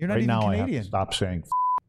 You're not right even now Canadian. I have to stop saying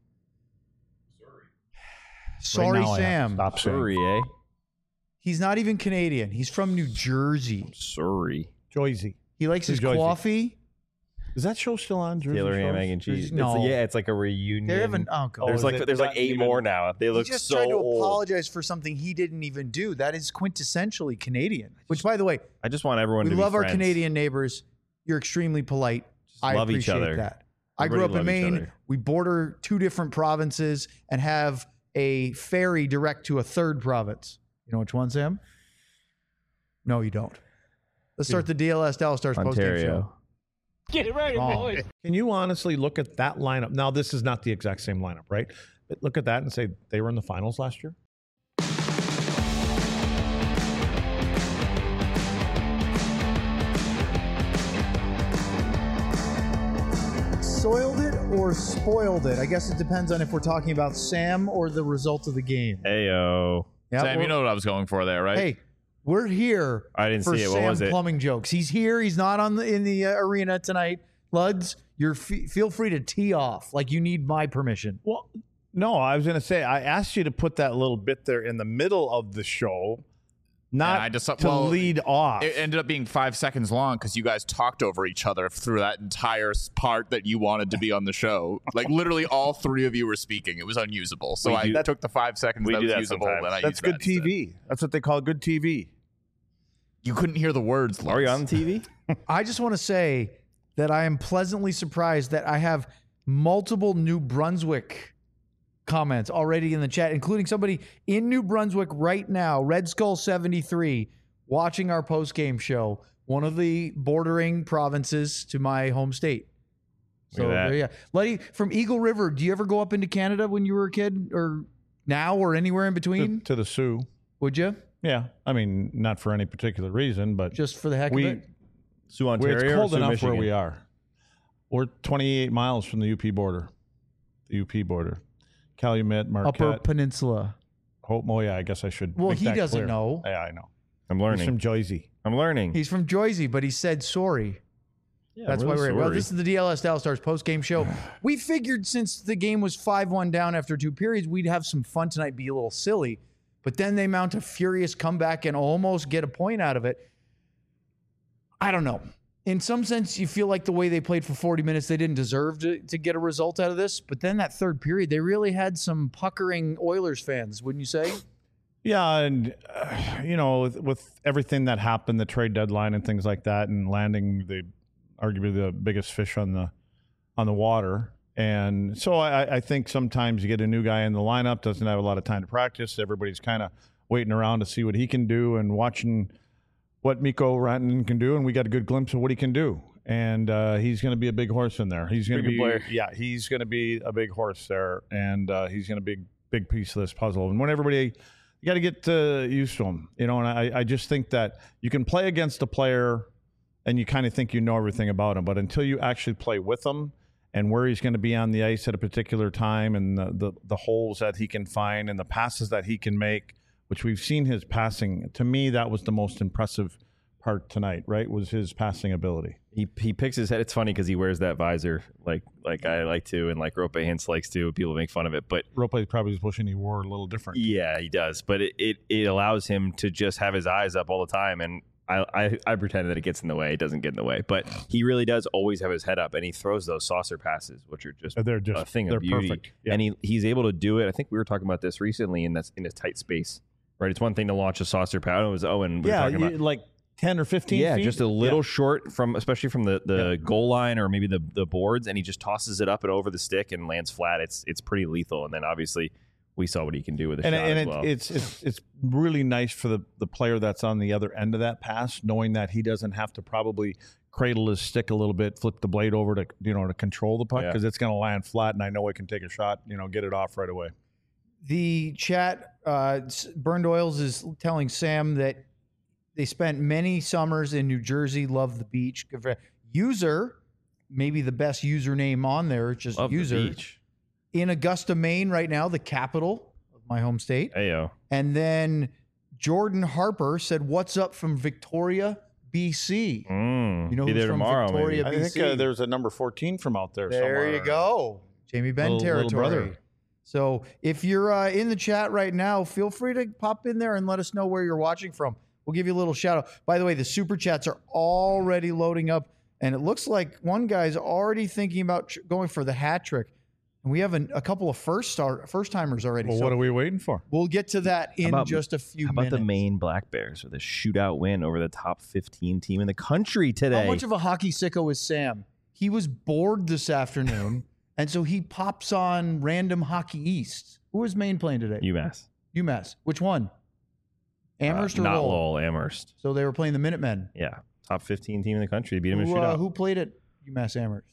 Sorry, right now Sam. Stop saying Surrey, eh? He's not even Canadian. He's from New Jersey. Surrey. Joyzy. He likes his Joyzy. coffee. Is that show still on? Jersey Taylor ham, Shores? egg, and cheese. No. It's like a reunion. They haven't. Oh, God. There's is like it there's like not 8 even- more now. They He look just so tried to old. apologize for something he didn't even do. That is quintessentially Canadian. Which, by the way, I just want everyone we to love be our friends. Canadian neighbors. You're extremely polite. I love each appreciate other. that. I grew up in Everybody love each Maine. other. We border 2 different provinces and have a ferry direct to a 3rd province. You know which one, Sam? No, you don't. Let's start the DLS Dallas Stars postgame show. Ontario. Get it ready, Wrong. boys. Can you honestly look at that lineup? Now, this is not the exact same lineup, right? But look at that and say they were in the finals last year. Soiled it or spoiled it? I guess it depends on if we're talking about Sam or the result of the game. Heyo. Yeah, Sam, you we're- know what I was going for there, right? Hey, we're here I didn't for see it. What Sam was it? plumbing jokes. He's here. He's not in the arena tonight. Luds, feel free to tee off like you need my permission. Well, no, I was going to say, I asked you to put that little bit there in the middle of the show, not And I just- to well, lead off. It ended up being 5 seconds long because you guys talked over each other through that entire part that you wanted to be on the show. Like literally, all 3 of you were speaking. It was unusable. So I took the 5 seconds we that do was that usable, sometimes. and I That's used good that instead. TV. That's what they call good TV. You couldn't hear the words. Are you Lutz. on TV? I just want to say that I am pleasantly surprised that I have multiple New Brunswick comments already in the chat, including somebody in New Brunswick right now, Red Skull 73, watching our post-game show, one of the bordering provinces to my home state. So Look at that. there you go. Letty, from Eagle River, do you ever go up into Canada when you were a kid, or now, or anywhere in between? To the Sioux. Would you? Yeah. I mean, not for any particular reason, but Just for the heck we, of it? Sioux, where Ontario. it's or cold Sioux, enough Michigan? where we are. We're 28 miles from the UP border. The UP border. Calumet, Marquette. Upper Peninsula. Hope. Oh, yeah, I guess I should. Well, make he that doesn't clear. know. Yeah, I know. I'm He's learning. from Joyzy. I'm learning. He's from Joyzy, but he said sorry. Yeah, That's I'm why really we're here. Well, sorry. this is the DLS Dallas Stars post-game show. We figured since the game was 5-1 down after 2 periods, we'd have some fun tonight, be a little silly. But then they mount a furious comeback and almost get a point out of it. I don't know. In some sense, you feel like the way they played for 40 minutes, they didn't deserve to get a result out of this. But then that 3rd period, they really had some puckering Oilers fans, wouldn't you say? Yeah, and you know, with everything that happened, the trade deadline and things like that, and landing arguably the biggest fish on the water, and so I think sometimes you get a new guy in the lineup, doesn't have a lot of time to practice. Everybody's kind of waiting around to see what he can do and watching what Mikko Rantanen can do, and we got a good glimpse of what he can do. And he's going to be a big horse in there. He's going to Pretty be, good player. yeah, he's going to be a big horse there, and he's going to be a big piece of this puzzle. And when everybody, you got to get used to him, you know. And I just think that you can play against a player, and you kind of think you know everything about him, but until you actually play with him and where he's going to be on the ice at a particular time, and the holes that he can find and the passes that he can make, which we've seen his passing. To me, that was the most impressive part tonight, right? Was his passing ability. He picks his head. It's funny because he wears that visor like I like to, and like Rope Hintz likes to. People make fun of it, but Rope probably was wishing he wore a little different. yeah, he does. But it allows him to just have his eyes up all the time, and I pretend that it gets in the way. It doesn't get in the way, but he really does always have his head up, and he throws those saucer passes, which are just They're just a thing they're of beauty. perfect. Yeah. And he's able to do it. I think we were talking about this recently, and that's in a tight space, right? It's one thing to launch a saucer pass. It was Owen. We were talking about like 10 or 15 yeah, feet. just a little Yeah. short especially from the goal line or maybe the boards, and he just tosses it up and over the stick and lands flat. It's pretty lethal. And then obviously we saw what he can do with a shot as well. It's really nice for the player that's on the other end of that pass, knowing that he doesn't have to probably cradle his stick a little bit, flip the blade over to to control the puck, Yeah. because it's going to land flat, and I know I can take a shot, get it off right away. The chat, Burned Oils is telling Sam that they spent many summers in New Jersey, love the beach. User, maybe the best username on there, just Love the user. beach. In Augusta, Maine right now, the capital of my home state. Heyo. And then Jordan Harper said, "What's up from Victoria BC. You know Be who's there from tomorrow, Victoria, maybe. BC? I think there's a number 14 from out there somewhere. There you go. Jamie Benn Little territory. brother. So if you're in the chat right now, feel free to pop in there and let us know where you're watching from. We'll give you a little shout out. By the way, the super chats are already loading up, and it looks like one guy's already thinking about going for the hat trick. And we have a couple of first timers already. Well, so what are we waiting for? we'll get to that in just a few How about minutes. the Maine Black Bears with a shootout win over the top 15 team in the country today? How much of a hockey sicko is Sam? He was bored this afternoon, and so he pops on random Hockey East. Who is Maine playing today? UMass. Which one? Amherst or not Lowell? Lowell, Amherst. So they were playing the Minutemen. Yeah, top 15 team in the country. They beat them in a shootout. Who played at UMass Amherst?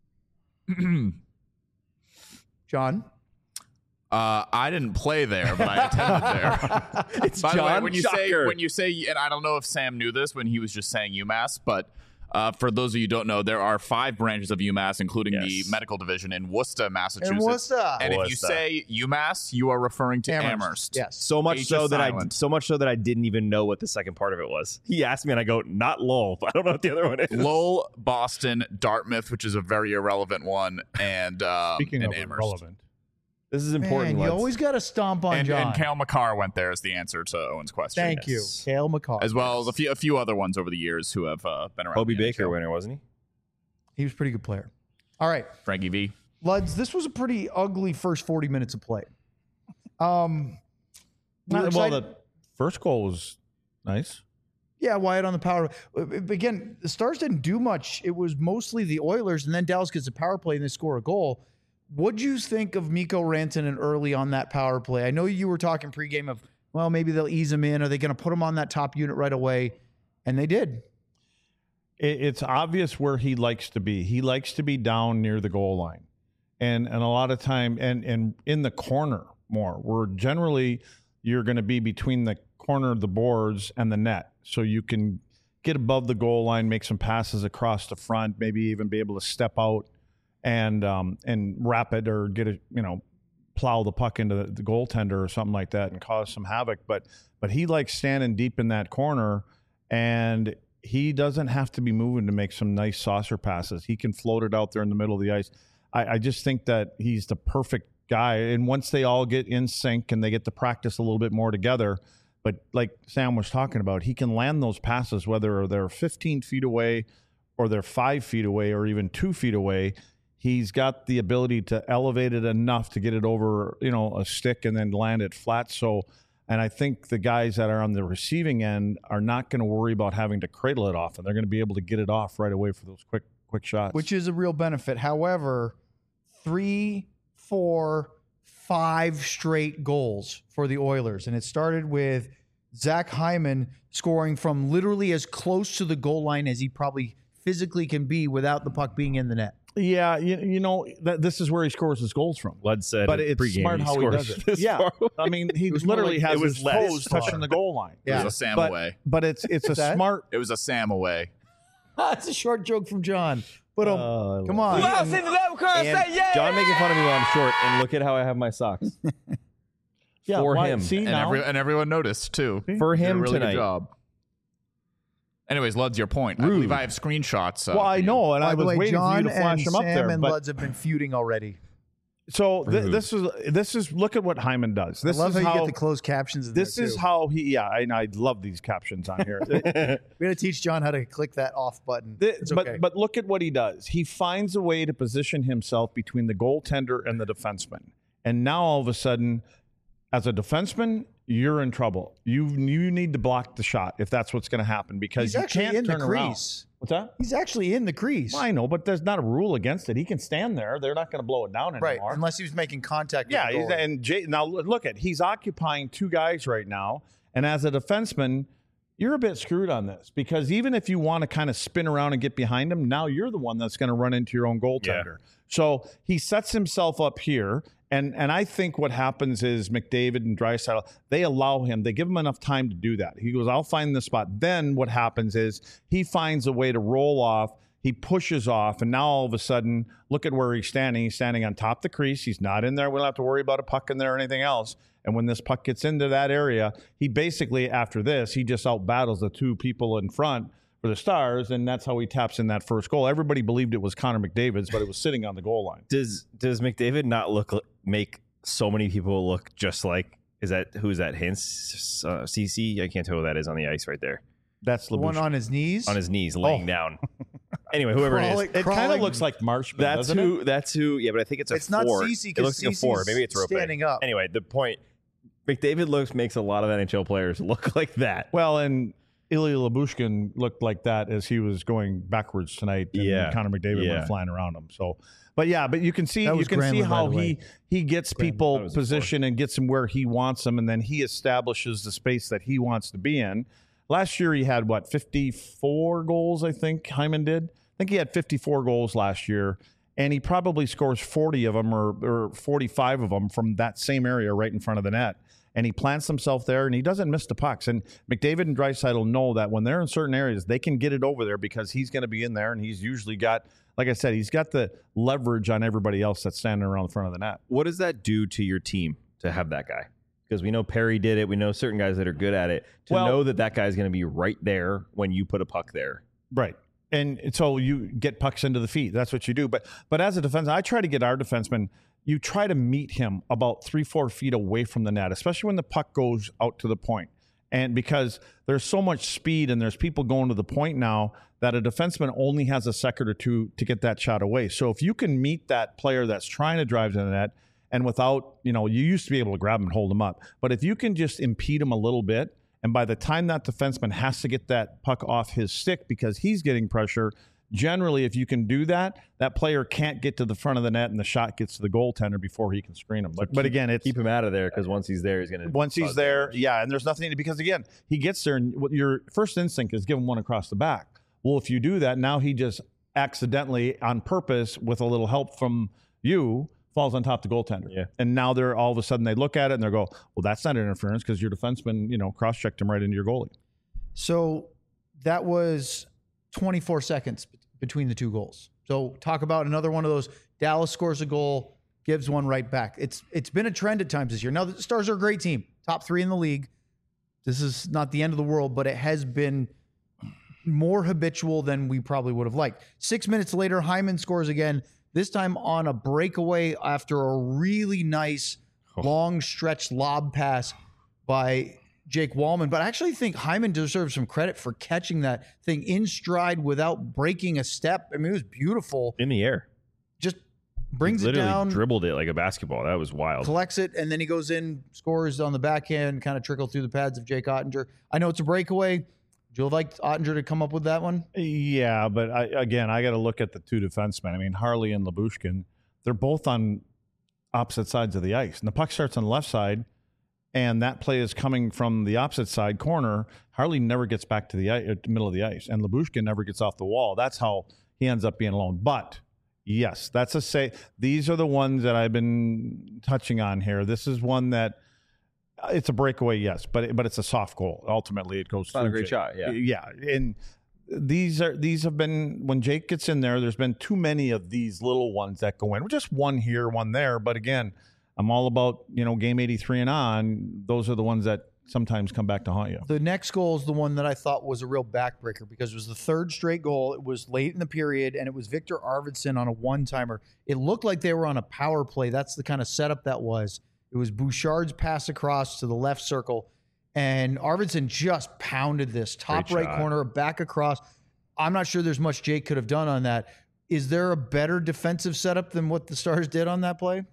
John? I didn't play there, but I attended there. It's By the way, John when you say, and I don't know if Sam knew this when he was just saying UMass, but for those of you who don't know, there are 5 branches of UMass, including the medical division in Worcester, Massachusetts. In Worcester. And if you say UMass, you are referring to Amherst. Yes. So much H so is that silent. I didn't even know what the second part of it was. He asked me, and I go, "Not Lowell." I don't know what the other one is. Lowell, Boston, Dartmouth, which is a very irrelevant one, and Speaking and of Amherst. irrelevant, This is important. Man, you lads. always got to stomp on John. And Cale McCarr went there as the answer to Owen's question. Thank you, Cale McCarr. As well as a few other ones over the years who have been around. Kobe the Baker NHL. winner, wasn't he? He was a pretty good player. All right, Frankie V. Luds, this was a pretty ugly first 40 minutes of play. well, the first goal was nice. Yeah, Wyatt on the power. Again, the Stars didn't do much. It was mostly the Oilers, and then Dallas gets a power play and they score a goal. What'd you think of Mikko Rantanen early on that power play? I know you were talking pregame of, well, maybe they'll ease him in. Are they going to put him on that top unit right away? And they did. It's obvious where he likes to be. He likes to be down near the goal line, and a lot of time and in the corner more. Where generally you're going to be between the corner of the boards and the net, so you can get above the goal line, make some passes across the front, maybe even be able to step out and wrap it or get plow the puck into the goaltender or something like that and cause some havoc. But he likes standing deep in that corner, and he doesn't have to be moving to make some nice saucer passes. He can float it out there in the middle of the ice. I just think that he's the perfect guy. And once they all get in sync and they get to practice a little bit more together, but like Sam was talking about, he can land those passes, whether they're 15 feet away or they're 5 feet away or even 2 feet away. He's got the ability to elevate it enough to get it over, a stick and then land it flat. And I think the guys that are on the receiving end are not going to worry about having to cradle it off, and they're going to be able to get it off right away for those quick shots. Which is a real benefit. However, 3, 4, 5 straight goals for the Oilers. And it started with Zach Hyman scoring from literally as close to the goal line as he probably physically can be without the puck being in the net. Yeah, this is where he scores his goals from. Lud said, but it's pregame, smart how he does it. Yeah, I mean, he literally has his toes touching the goal line. It was a Sam away. But it's a smart. It was a Sam away. That's a short joke from John. But come on. John making fun of me while I'm short, and look at how I have my socks. Yeah, for him. See, and everyone noticed too. For Did a him really tonight. Good job. Anyways, Lud's your point. I believe I have screenshots. Well, I know, and By I the was way, waiting John for you to flash and them up Sam there. and But Luds have been feuding already. so this is look at what Hyman does. This I love is how you get the closed captions in This there, is too. how he. Yeah, I love these captions on here. We're going to teach John how to click that off button. It's okay. But look at what he does. He finds a way to position himself between the goaltender and the defenseman. And now all of a sudden, as a defenseman, you're in trouble. You need to block the shot if that's what's going to happen, because He's you actually can't in the turn around. crease. What's that? He's actually in the crease. Well, I know, but there's not a rule against it. He can stand there. They're not going to blow it down Right, anymore. unless he was making contact with Yeah, the goalie. and now look at, he's occupying 2 guys right now, and as a defenseman, you're a bit screwed on this, because even if you want to kind of spin around and get behind him, now you're the one that's going to run into your own goaltender. So he sets himself up here, and I think what happens is McDavid and Draisaitl, they allow him, they give him enough time to do that. He goes, I'll find the spot. Then what happens is he finds a way to roll off. He pushes off, and now all of a sudden, look at where he's standing. He's standing on top of the crease. He's not in there. We don't have to worry about a puck in there or anything else. And when this puck gets into that area, he basically, after this, he just out-battles the 2 people in front for the Stars, and that's how he taps in that first goal. Everybody believed it was Connor McDavid's, but it was sitting on the goal line. Does McDavid not make so many people look just like? Who's that? Hintz, CC? I can't tell who that is on the ice right there. That's the one on his knees. On his knees, laying down. Anyway, whoever it is, it kind of looks like Marshman. That's who. Yeah, but I think it's it's four. Not CC. It looks like a 4. Maybe it's Rope. Standing up. Anyway, the point. McDavid makes a lot of NHL players look like that. Well, and Ilya Lyubushkin looked like that as he was going backwards tonight. And Connor McDavid went flying around him. So, but you can see how he gets people positioned and gets them where he wants them, and then he establishes the space that he wants to be in. Last year he had 54 goals, I think Hyman did. I think he had 54 goals last year, and he probably scores 40 of them or 45 of them from that same area right in front of the net. And he plants himself there, and he doesn't miss the pucks. And McDavid and Draisaitl know that when they're in certain areas, they can get it over there because he's going to be in there, and he's usually got, like I said, he's got the leverage on everybody else that's standing around the front of the net. What does that do to your team to have that guy? Because we know Perry did it. We know certain guys that are good at it. To know that guy is going to be right there when you put a puck there. Right. And so you get pucks into the feet. That's what you do. But as a defenseman, I try to get our defenseman, you try to meet him about 3-4 feet away from the net, especially when the puck goes out to the point. And because there's so much speed and there's people going to the point now that a defenseman only has a second or two to get that shot away. So if you can meet that player that's trying to drive to the net, and without, you used to be able to grab him and hold him up. But if you can just impede him a little bit, and by the time that defenseman has to get that puck off his stick because he's getting pressure, generally, if you can do that, that player can't get to the front of the net and the shot gets to the goaltender before he can screen him. But again, it's keep him out of there because once he's there, he's going to. Once he's there, and there's nothing because again, he gets there and what your first instinct is give him one across the back. Well, if you do that, now he just accidentally, on purpose, with a little help from you, falls on top of the goaltender. Yeah. And now they're all of a sudden they look at it and they go, well, that's not interference because your defenseman, cross-checked him right into your goalie. So that was 24 seconds between the two goals. So talk about another one of those. Dallas scores a goal, gives one right back. It's been a trend at times this year. Now the Stars are a great team, top 3 in the league. This is not the end of the world, but it has been more habitual than we probably would have liked. 6 minutes later, Hyman scores again. This time on a breakaway after a really nice long stretch lob pass by Jake Wallman. But I actually think Hyman deserves some credit for catching that thing in stride without breaking a step. I mean, it was beautiful. In the air. Just brings it down. Dribbled it like a basketball. That was wild. Collects it, and then he goes in, scores on the backhand, kind of trickled through the pads of Jake Ottinger. I know it's a breakaway. Would you have liked Ottinger to come up with that one? Yeah, but I got to look at the two defensemen. I mean, Harley and Lyubushkin, they're both on opposite sides of the ice. And the puck starts on the left side, and that play is coming from the opposite side corner. Harley never gets back to the middle of the ice, and Lyubushkin never gets off the wall. That's how he ends up being alone. But, yes, these are the ones that I've been touching on here. This is one that it's a breakaway, yes, but it's a soft goal. Ultimately, it goes. It's not a great shot, yeah. Yeah, and these have been when Jake gets in there. There's been too many of these little ones that go in. Just one here, one there. But again, I'm all about game 83 and on. Those are the ones that sometimes come back to haunt you. The next goal is the one that I thought was a real backbreaker because it was the third straight goal. It was late in the period, and it was Victor Arvidsson on a one-timer. It looked like they were on a power play. That's the kind of setup that was. It was Bouchard's pass across to the left circle, and Arvidsson just pounded this top right corner, back across. I'm not sure there's much Jake could have done on that. Is there a better defensive setup than what the Stars did on that play?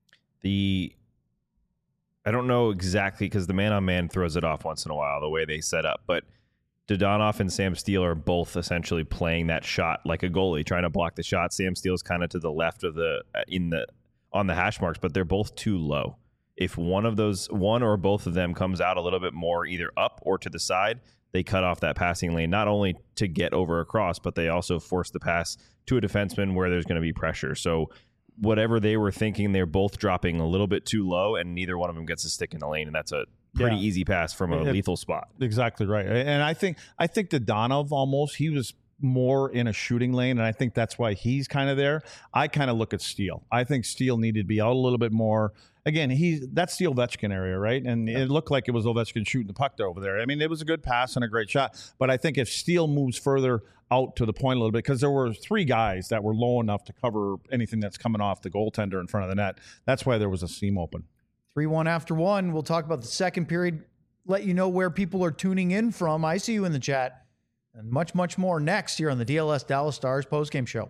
I don't know exactly because the man-on-man throws it off once in a while, the way they set up, but Dodonov and Sam Steele are both essentially playing that shot like a goalie, trying to block the shot. Sam Steele's kind of to the left of on the hash marks, but they're both too low. If one or both of them comes out a little bit more either up or to the side, they cut off that passing lane, not only to get over across, but they also force the pass to a defenseman where there's going to be pressure. So whatever they were thinking, they're both dropping a little bit too low, and neither one of them gets a stick in the lane, and that's a pretty easy pass from a lethal spot. Exactly right. And I think Dodonov almost, he was more in a shooting lane, and I think that's why he's kind of there. I kind of look at Steele. I think Steele needed to be out a little bit more. Again, that's the Ovechkin area, right? And it looked like it was Ovechkin shooting the puck over there. I mean, it was a good pass and a great shot. But I think if Steele moves further out to the point a little bit, because there were 3 guys that were low enough to cover anything that's coming off the goaltender in front of the net. That's why there was a seam open. 3-1 after 1. We'll talk about the second period, let you know where people are tuning in from. I see you in the chat. And much, much more next here on the DLS Dallas Stars postgame show.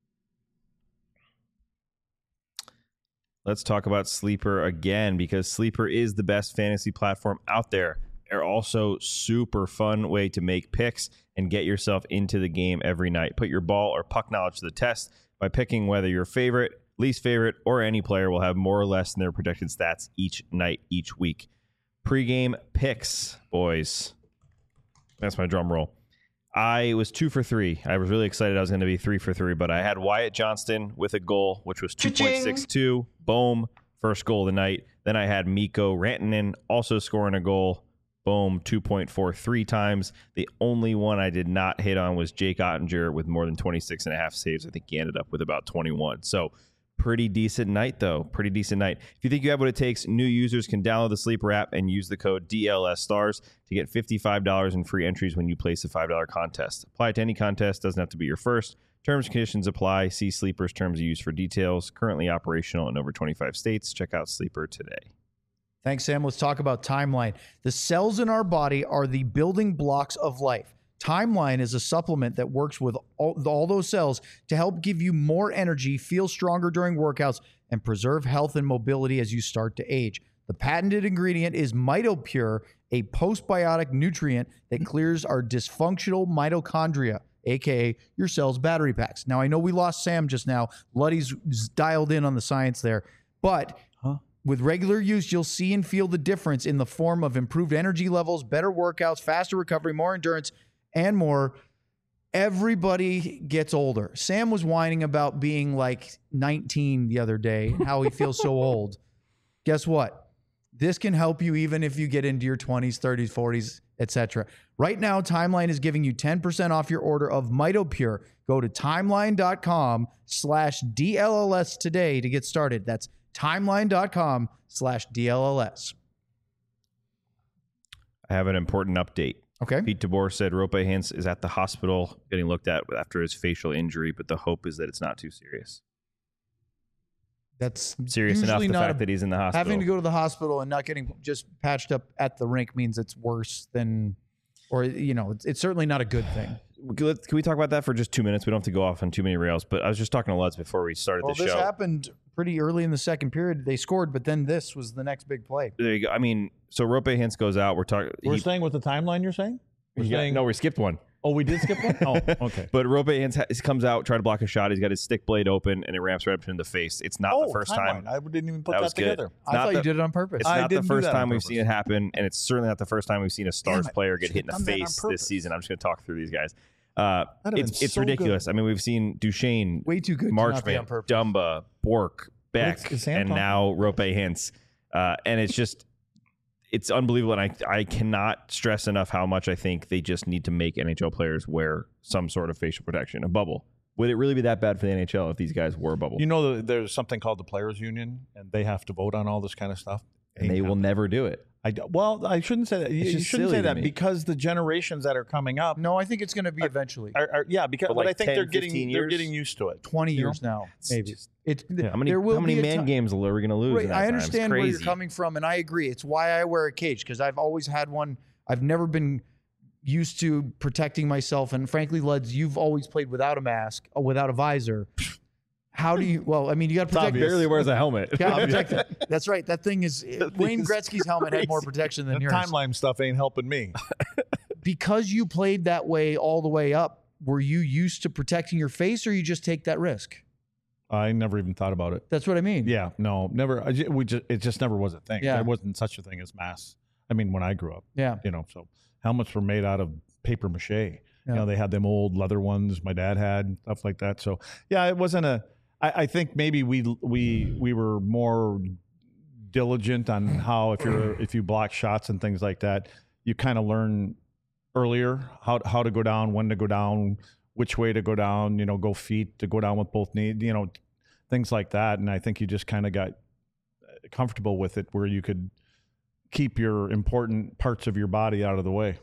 Let's talk about Sleeper again, because Sleeper is the best fantasy platform out there. They're also super fun way to make picks and get yourself into the game every night. Put your ball or puck knowledge to the test by picking whether your favorite, least favorite, or any player will have more or less than their projected stats each night, each week. Pre-game picks, boys. That's my drum roll. I was 2 for 3. I was really excited I was going to be 3 for 3, but I had Wyatt Johnston with a goal, which was 2.62. Boom. First goal of the night. Then I had Mikko Rantanen also scoring a goal. Boom. 2.43 times. The only one I did not hit on was Jake Ottinger with more than 26.5 saves. I think he ended up with about 21. So pretty decent night, though. Pretty decent night. If you think you have what it takes, new users can download the Sleeper app and use the code DLSStars to get $55 in free entries when you place a $5 contest. Apply to any contest. Doesn't have to be your first. Terms and conditions apply. See Sleeper's terms of use for details. Currently operational in over 25 states. Check out Sleeper today. Thanks, Sam. Let's talk about Timeline. The cells in our body are the building blocks of life. Timeline is a supplement that works with all those cells to help give you more energy, feel stronger during workouts, and preserve health and mobility as you start to age. The patented ingredient is MitoPure, a postbiotic nutrient that clears our dysfunctional mitochondria, aka your cell's battery packs. Now, I know we lost Sam just now. Luddy's dialed in on the science there, but with regular use, you'll see and feel the difference in the form of improved energy levels, better workouts, faster recovery, more endurance, and more. Everybody gets older. Sam was whining about being like 19 the other day, how he feels so old. Guess what? This can help you even if you get into your 20s, 30s, 40s, etc. Right now, Timeline is giving you 10% off your order of MitoPure. Go to timeline.com/DLLS today to get started. That's timeline.com/DLLS. I have an important update. Okay. Pete DeBoer said Rope Hintz is at the hospital getting looked at after his facial injury, but the hope is that it's not too serious. That's serious enough, the fact that he's in the hospital. Having to go to the hospital and not getting just patched up at the rink means it's worse than, or, you know, it's certainly not a good thing. Can we talk about that for just 2 minutes? We don't have to go off on too many rails, but I was just talking to Lutz before we started the show. This happened pretty early in the second period. They scored, but then this was the next big play. There you go. I mean, so Rope Hintz goes out. We're staying with the timeline, you're saying? No, we skipped one. Oh, we did skip one? Oh, okay. But Rope Hintz comes out, try to block a shot. He's got his stick blade open, and it ramps right up to him in the face. It's not the first time. I didn't even put that together. I thought you did it on purpose. It's not the first time we've seen it happen, and it's certainly not the first time we've seen a Stars player get hit in the face this season. I'm just going to talk through these guys. It's ridiculous. I mean, we've seen Duchesne, way too good, Marchment, Dumba, Bork, Beck, and now Rope Hintz. And it's just... It's unbelievable, and I cannot stress enough how much I think they just need to make NHL players wear some sort of facial protection, a bubble. Would it really be that bad for the NHL if these guys wore a bubble? You know, there's something called the Players Union, and they have to vote on all this kind of stuff. And they will never do it. I shouldn't say that. You shouldn't say that because the generations that are coming up. No, I think it's going to be eventually. But I think they're getting used to it. 20 years now, maybe. How many man games are we going to lose? Right, I understand where you're coming from, and I agree. It's why I wear a cage, because I've always had one. I've never been used to protecting myself, and frankly, Luds, you've always played without a mask, or without a visor. How do you? Well, I mean, you got to protect. Barely wears a helmet. That's right. That thing is. Wayne Gretzky's helmet had more protection than yours. Timeline stuff ain't helping me. Because you played that way all the way up, were you used to protecting your face, or you just take that risk? I never even thought about it. That's what I mean. Yeah, no, never. It just never was a thing. Yeah. There wasn't such a thing as masks. I mean, when I grew up. Yeah. So helmets were made out of paper mache. Yeah. You know, they had them old leather ones my dad had, stuff like that. So yeah, it wasn't a. I think maybe we were more diligent on how if you block shots and things like that, you kind of learn earlier how to go down, when to go down, which way to go down, go feet, to go down with both knees, things like that. And I think you just kind of got comfortable with it where you could keep your important parts of your body out of the way.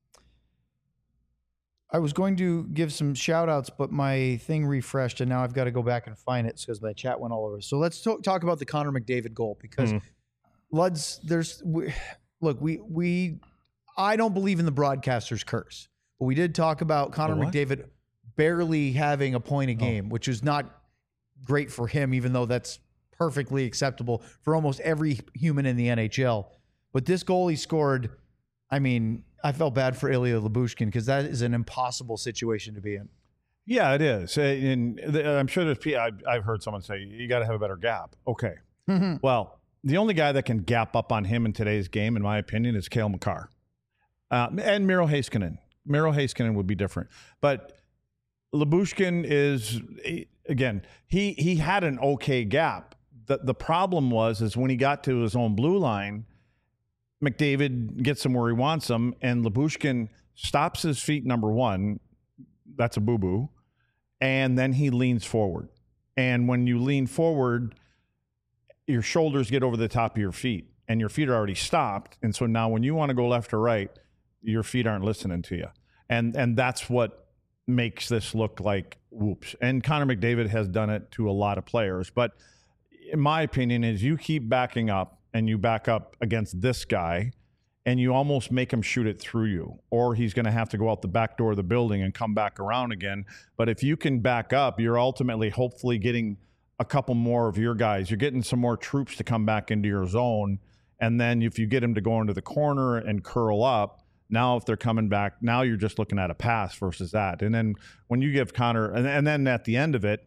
I was going to give some shout outs, but my thing refreshed and now I've got to go back and find it because my chat went all over. So let's talk about the Connor McDavid goal because Luds, I don't believe in the broadcaster's curse, but we did talk about Connor McDavid barely having a point a game, which is not great for him, even though that's perfectly acceptable for almost every human in the NHL. But this goal he scored, I mean, I felt bad for Ilya Lyubushkin because that is an impossible situation to be in. Yeah, it is. And I'm sure I've heard someone say, you got to have a better gap. Okay. Well, the only guy that can gap up on him in today's game, in my opinion, is Cale Makar. And Miro Heiskanen. Miro Heiskanen would be different. But Lyubushkin is, again, he had an okay gap. The problem is when he got to his own blue line, McDavid gets him where he wants him, and Lyubushkin stops his feet, number one. That's a boo-boo. And then he leans forward. And when you lean forward, your shoulders get over the top of your feet, and your feet are already stopped. And so now when you want to go left or right, your feet aren't listening to you. And that's what makes this look like whoops. And Connor McDavid has done it to a lot of players. But in my opinion is you keep backing up, and you back up against this guy, and you almost make him shoot it through you, or he's going to have to go out the back door of the building and come back around again. But if you can back up, you're ultimately hopefully getting a couple more of your guys. You're getting some more troops to come back into your zone. And then if you get him to go into the corner and curl up, now if they're coming back, now you're just looking at a pass versus that. And then when you give Connor, and then at the end of it,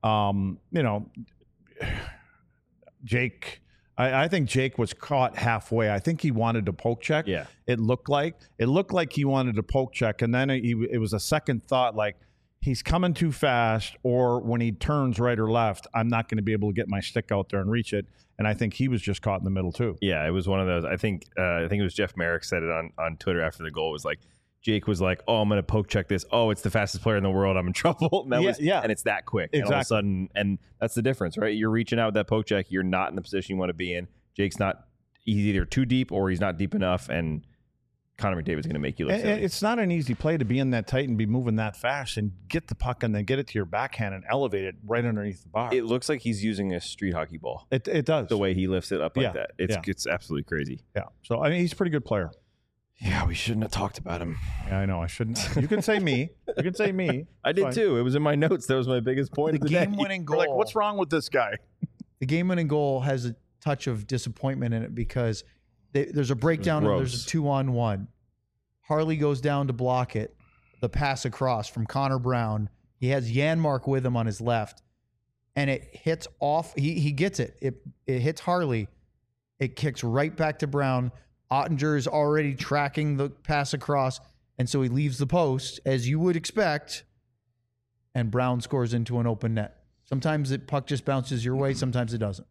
Jake, I think Jake was caught halfway. I think he wanted to poke check. Yeah. It looked like he wanted to poke check. And then it was a second thought, like he's coming too fast, or when he turns right or left, I'm not going to be able to get my stick out there and reach it. And I think he was just caught in the middle too. Yeah, it was one of those. I think it was Jeff Merrick said it on Twitter after the goal. It was like, Jake was like, oh, I'm going to poke check this. Oh, it's the fastest player in the world. I'm in trouble. And and it's that quick. Exactly. And all of a sudden, and that's the difference, right? You're reaching out with that poke check. You're not in the position you want to be in. Jake's not, he's either too deep or he's not deep enough. And Connor McDavid's going to make you look silly. It's not an easy play to be in that tight and be moving that fast and get the puck and then get it to your backhand and elevate it right underneath the bar. It looks like he's using a street hockey ball. It does. The way he lifts it up like that. It's absolutely crazy. Yeah. So, I mean, he's a pretty good player. Yeah, we shouldn't have talked about him. Yeah, I know. I shouldn't. You can say me. You can say me. I did too. It was in my notes. That was my biggest point. The game-winning goal. We're like, what's wrong with this guy? The game-winning goal has a touch of disappointment in it because there's a breakdown and there's a 2-on-1. Harley goes down to block it. The pass across from Connor Brown. He has Janmark with him on his left, and it hits off. He gets it. It hits Harley. It kicks right back to Brown. Ottinger is already tracking the pass across, and so he leaves the post, as you would expect, and Brown scores into an open net. Sometimes the puck just bounces your way, sometimes it doesn't.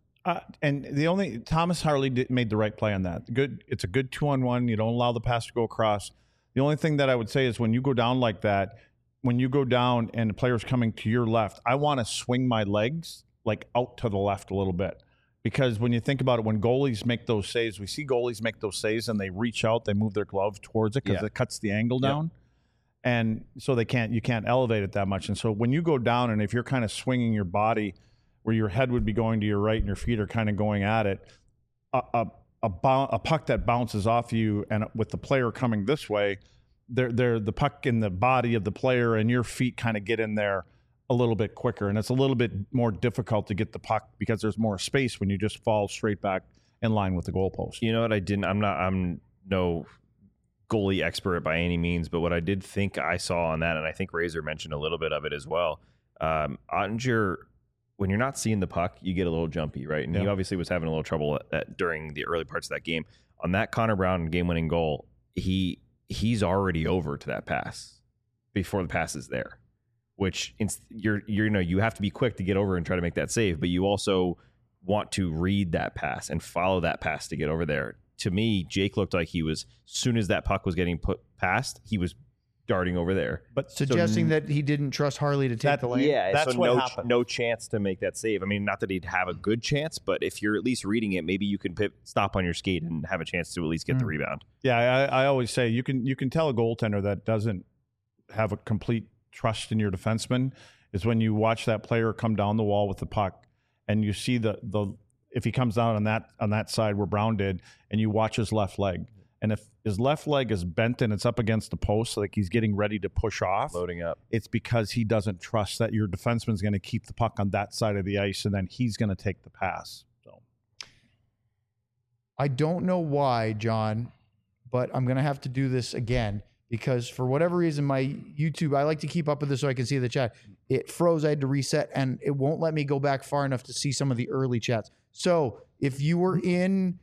And Thomas Harley made the right play on that. It's a good 2-on-1. You don't allow the pass to go across. The only thing that I would say is when you go down like that, when you go down and the player's coming to your left, I want to swing my legs like out to the left a little bit. Because when you think about it, when goalies make those saves, we see goalies make those saves and they reach out, they move their glove towards it because it cuts the angle down. And so you can't elevate it that much. And so when you go down and if you're kind of swinging your body where your head would be going to your right and your feet are kind of going at it, a puck that bounces off you and with the player coming this way, the puck in the body of the player and your feet kind of get in there a little bit quicker, and it's a little bit more difficult to get the puck because there's more space when you just fall straight back in line with the goalpost. You know what? I'm no goalie expert by any means, but what I did think I saw on that, and I think Razor mentioned a little bit of it as well. Ottinger, when you're not seeing the puck, you get a little jumpy, right? And he obviously was having a little trouble during the early parts of that game. On that Connor Brown game-winning goal, he's already over to that pass before the pass is there. Which you have to be quick to get over and try to make that save, but you also want to read that pass and follow that pass to get over there. To me, Jake looked like he was, as soon as that puck was getting put past, he was darting over there. But Suggesting that he didn't trust Harley to take the lane. Yeah, That's so what happened. no chance to make that save. I mean, not that he'd have a good chance, but if you're at least reading it, maybe you can stop on your skate and have a chance to at least get the rebound. Yeah, I always say you can tell a goaltender that doesn't have a complete trust in your defenseman is when you watch that player come down the wall with the puck and you see the if he comes down on that side where Brown did, and you watch his left leg. And if his left leg is bent and it's up against the post, like he's getting ready to push off, Loading up. it's because he doesn't trust that your defenseman's going to keep the puck on that side of the ice, and then he's going to take the pass. So I don't know why, John, but I'm going to have to do this again because for whatever reason, my YouTube, I like to keep up with this so I can see the chat. It froze. I had to reset, and it won't let me go back far enough to see some of the early chats. So if you were in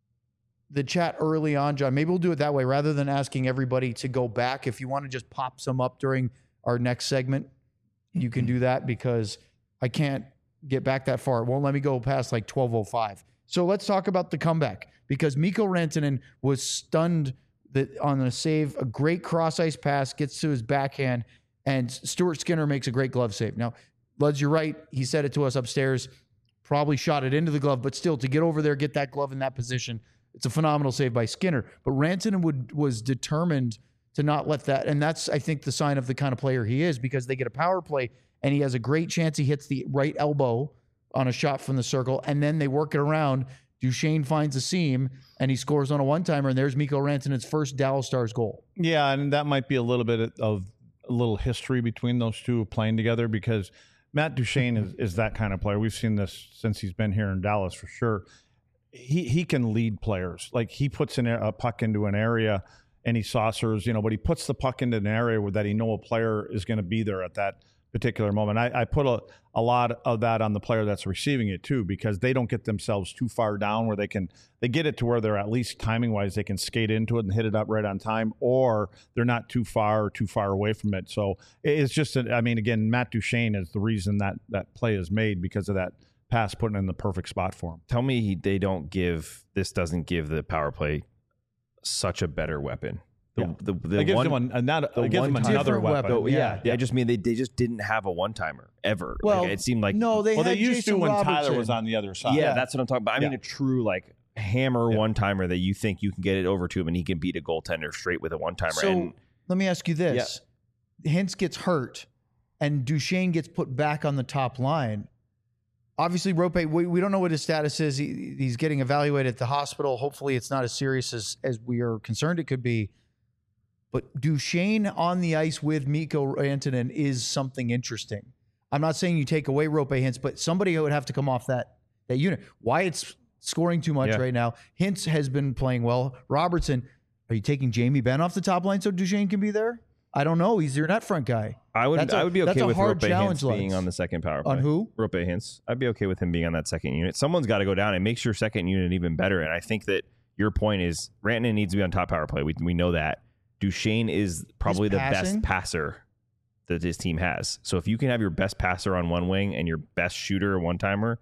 the chat early on, John, maybe we'll do it that way rather than asking everybody to go back. If you want to just pop some up during our next segment, you can do that because I can't get back that far. It won't let me go past like 12:05. So let's talk about the comeback because Mikko Rantanen was stunned on a save, a great cross ice pass, gets to his backhand, and Stuart Skinner makes a great glove save. Now, Luds, you're right. He said it to us upstairs, probably shot it into the glove, but still to get over there, get that glove in that position, it's a phenomenal save by Skinner. But Rantanen was determined to not let that, and that's, I think, the sign of the kind of player he is because they get a power play, and he has a great chance. He hits the right elbow on a shot from the circle, and then they work it around. Duchesne finds a seam, and he scores on a one-timer, and there's Mikko Rantanen's first Dallas Stars goal. yeah, and that might be a little bit of a little history between those two playing together because Matt Duchesne is that kind of player. We've seen this since he's been here in Dallas for sure. He can lead players. Like he puts a puck into an area and he saucers, but he puts the puck into an area where that a player is going to be there at that particular moment. I put a lot of that on the player that's receiving it too, because they don't get themselves too far down where they get it to where they're at least timing wise, they can skate into it and hit it up right on time, or they're not too far away from it. So it's just, again, Matt Duchesne is the reason that play is made because of that pass putting in the perfect spot for him. Tell me this doesn't give the power play such a better weapon. It gives them another weapon. Yeah. I just mean they just didn't have a one-timer ever. Well, it seemed like they used Jason to when Robertson. Tyler was on the other side. Yeah, that's what I'm talking about. I mean a true hammer one-timer that you think you can get it over to him and he can beat a goaltender straight with a one-timer. So let me ask you this. Hintz gets hurt and Duchesne gets put back on the top line. Obviously, Rope, we don't know what his status is. He's getting evaluated at the hospital. Hopefully, it's not as serious as we are concerned it could be. But Duchesne on the ice with Mikko Rantanen is something interesting. I'm not saying you take away Rope Hintz, but somebody would have to come off that unit. Wyatt's scoring too much right now. Hintz has been playing well. Robertson, are you taking Jamie Benn off the top line so Duchesne can be there? I don't know. He's your net front guy. I would be okay with Rope Hintz Lutz. being on the second power play. On who? Rope Hintz. I'd be okay with him being on that second unit. Someone's got to go down and make your second unit even better. And I think that your point is Rantanen needs to be on top power play. We know that. Duchesne is probably the best passer that his team has. So if you can have your best passer on one wing and your best shooter one-timer,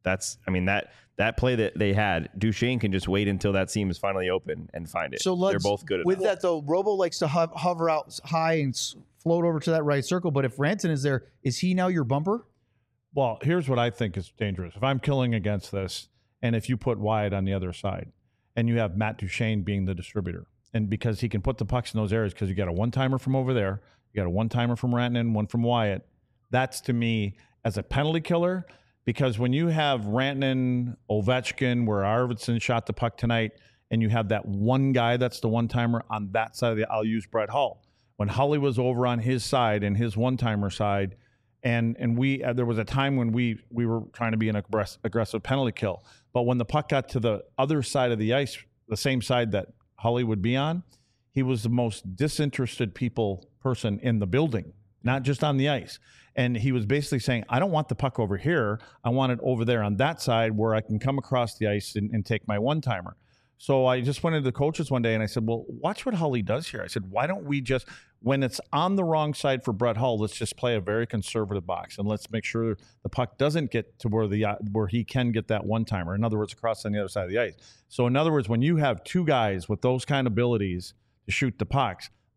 that play that they had, Duchesne can just wait until that seam is finally open and find it. So they're both good at with that, though, Robo likes to hover out high and float over to that right circle. But if Rantanen is there, is he now your bumper? Well, here's what I think is dangerous. If I'm killing against this, and if you put Wyatt on the other side, and you have Matt Duchesne being the distributor, and because he can put the pucks in those areas, because you got a one-timer from over there, you got a one-timer from Rantanen, one from Wyatt. That's, to me, as a penalty killer, because when you have Rantanen, Ovechkin, where Arvidsson shot the puck tonight, and you have that one guy that's the one-timer on that side of I'll use Brett Hull. When Hully was over on his side and his one-timer side, and we there was a time when we were trying to be an aggressive penalty kill. But when the puck got to the other side of the ice, the same side that Hully would be on, he was the most disinterested person in the building, not just on the ice. And he was basically saying, I don't want the puck over here. I want it over there on that side where I can come across the ice and take my one-timer. So I just went into the coaches one day and I said, well, watch what Hully does here. I said, why don't we just, when it's on the wrong side for Brett Hull, let's just play a very conservative box and let's make sure the puck doesn't get to where he can get that one-timer. In other words, across on the other side of the ice. So in other words, when you have two guys with those kind of abilities to shoot the pucks,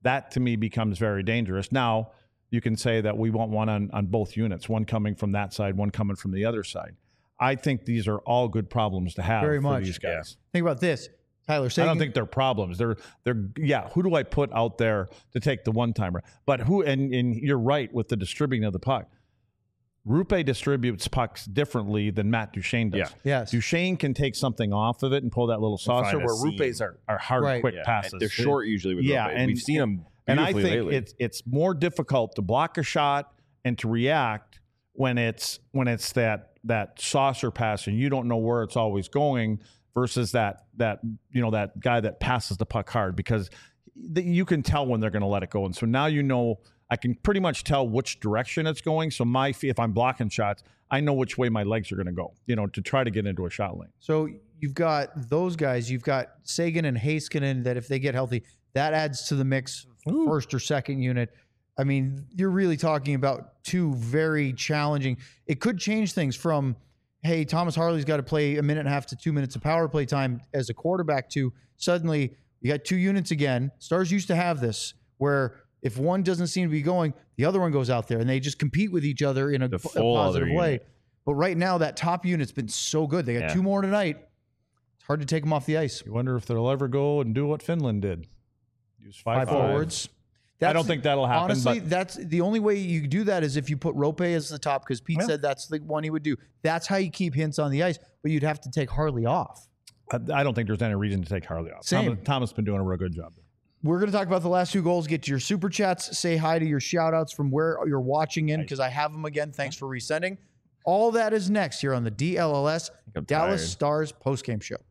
that to me becomes very dangerous. Now, you can say that we want one on both units, one coming from that side, one coming from the other side. I think these are all good problems to have for these guys. Yeah. Think about this. Tyler Seguin. I don't think they're problems. They're who do I put out there to take the one-timer? But who, and you're right with the distributing of the puck. Roope distributes pucks differently than Matt Duchene does. Yeah. Yes. Duchene can take something off of it and pull that little saucer, where Rupe's are hard, quick passes. And they're short usually with Roope. And we've seen them and I think lately. it's more difficult to block a shot and to react when it's that saucer pass and you don't know where it's always going versus that guy that passes the puck hard, because you can tell when they're going to let it go. And so now I can pretty much tell which direction it's going. So if I'm blocking shots, I know which way my legs are going to go, to try to get into a shot lane. So you've got those guys. You've got Seguin and Heiskanen that if they get healthy, that adds to the mix, first or second unit. I mean, you're really talking about two very challenging. It could change things from, hey, Thomas Harley's got to play a minute and a half to 2 minutes of power play time as a quarterback, to suddenly you got two units again. Stars used to have this where if one doesn't seem to be going, the other one goes out there and they just compete with each other in a positive way. But right now, that top unit's been so good. They got two more tonight. It's hard to take them off the ice. You wonder if they'll ever go and do what Finland did. Use five forwards. I don't think that'll happen. Honestly, that's the only way you do that is if you put Roope as the top, because Pete said that's the one he would do. That's how you keep Hintz on the ice, but you'd have to take Harley off. I don't think there's any reason to take Harley off. Thomas has been doing a real good job. We're going to talk about the last two goals, get to your super chats, say hi to your shout outs from where you're watching in, because I have them again. Thanks for resending. All that is next here on the DLLS Dallas Stars postgame show.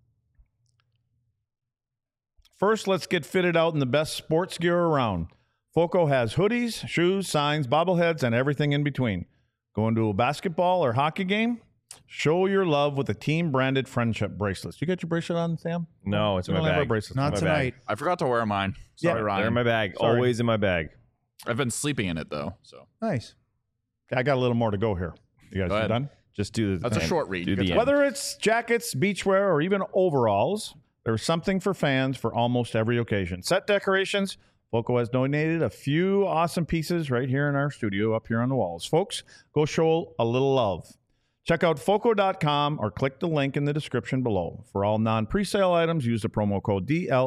First, let's get fitted out in the best sports gear around. Foco has hoodies, shoes, signs, bobbleheads, and everything in between. Going to a basketball or hockey game? Show your love with the team-branded friendship bracelets. You got your bracelet on, Sam? No, it's in my bag. Not tonight. I forgot to wear mine. Sorry, Ryan. They're in my bag. Sorry. Always in my bag. I've been sleeping in it, though. So Nice. I got a little more to go here. You guys done? Just do the. That's a short read. Whether it's jackets, beachwear, or even overalls, there's something for fans for almost every occasion. Set decorations. Foco has donated a few awesome pieces right here in our studio up here on the walls. Folks, go show a little love. Check out Foco.com or click the link in the description below. For all non-presale items, use the promo code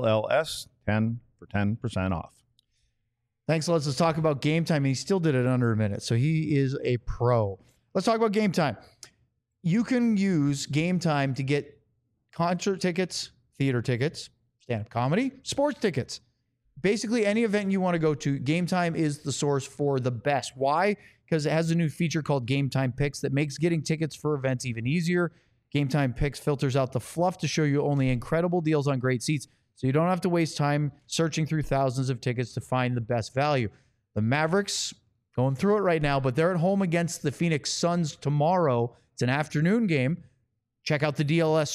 DLLS10 for 10% off. Thanks. Let's talk about Game Time. He still did it under a minute, so he is a pro. Let's talk about Game Time. You can use Game Time to get concert tickets, theater tickets, stand-up comedy, sports tickets. Basically, any event you want to go to, Game Time is the source for the best. Why? Because it has a new feature called Game Time Picks that makes getting tickets for events even easier. Game Time Picks filters out the fluff to show you only incredible deals on great seats, so you don't have to waste time searching through thousands of tickets to find the best value. The Mavericks, going through it right now, but they're at home against the Phoenix Suns tomorrow. It's an afternoon game. Check out the DLS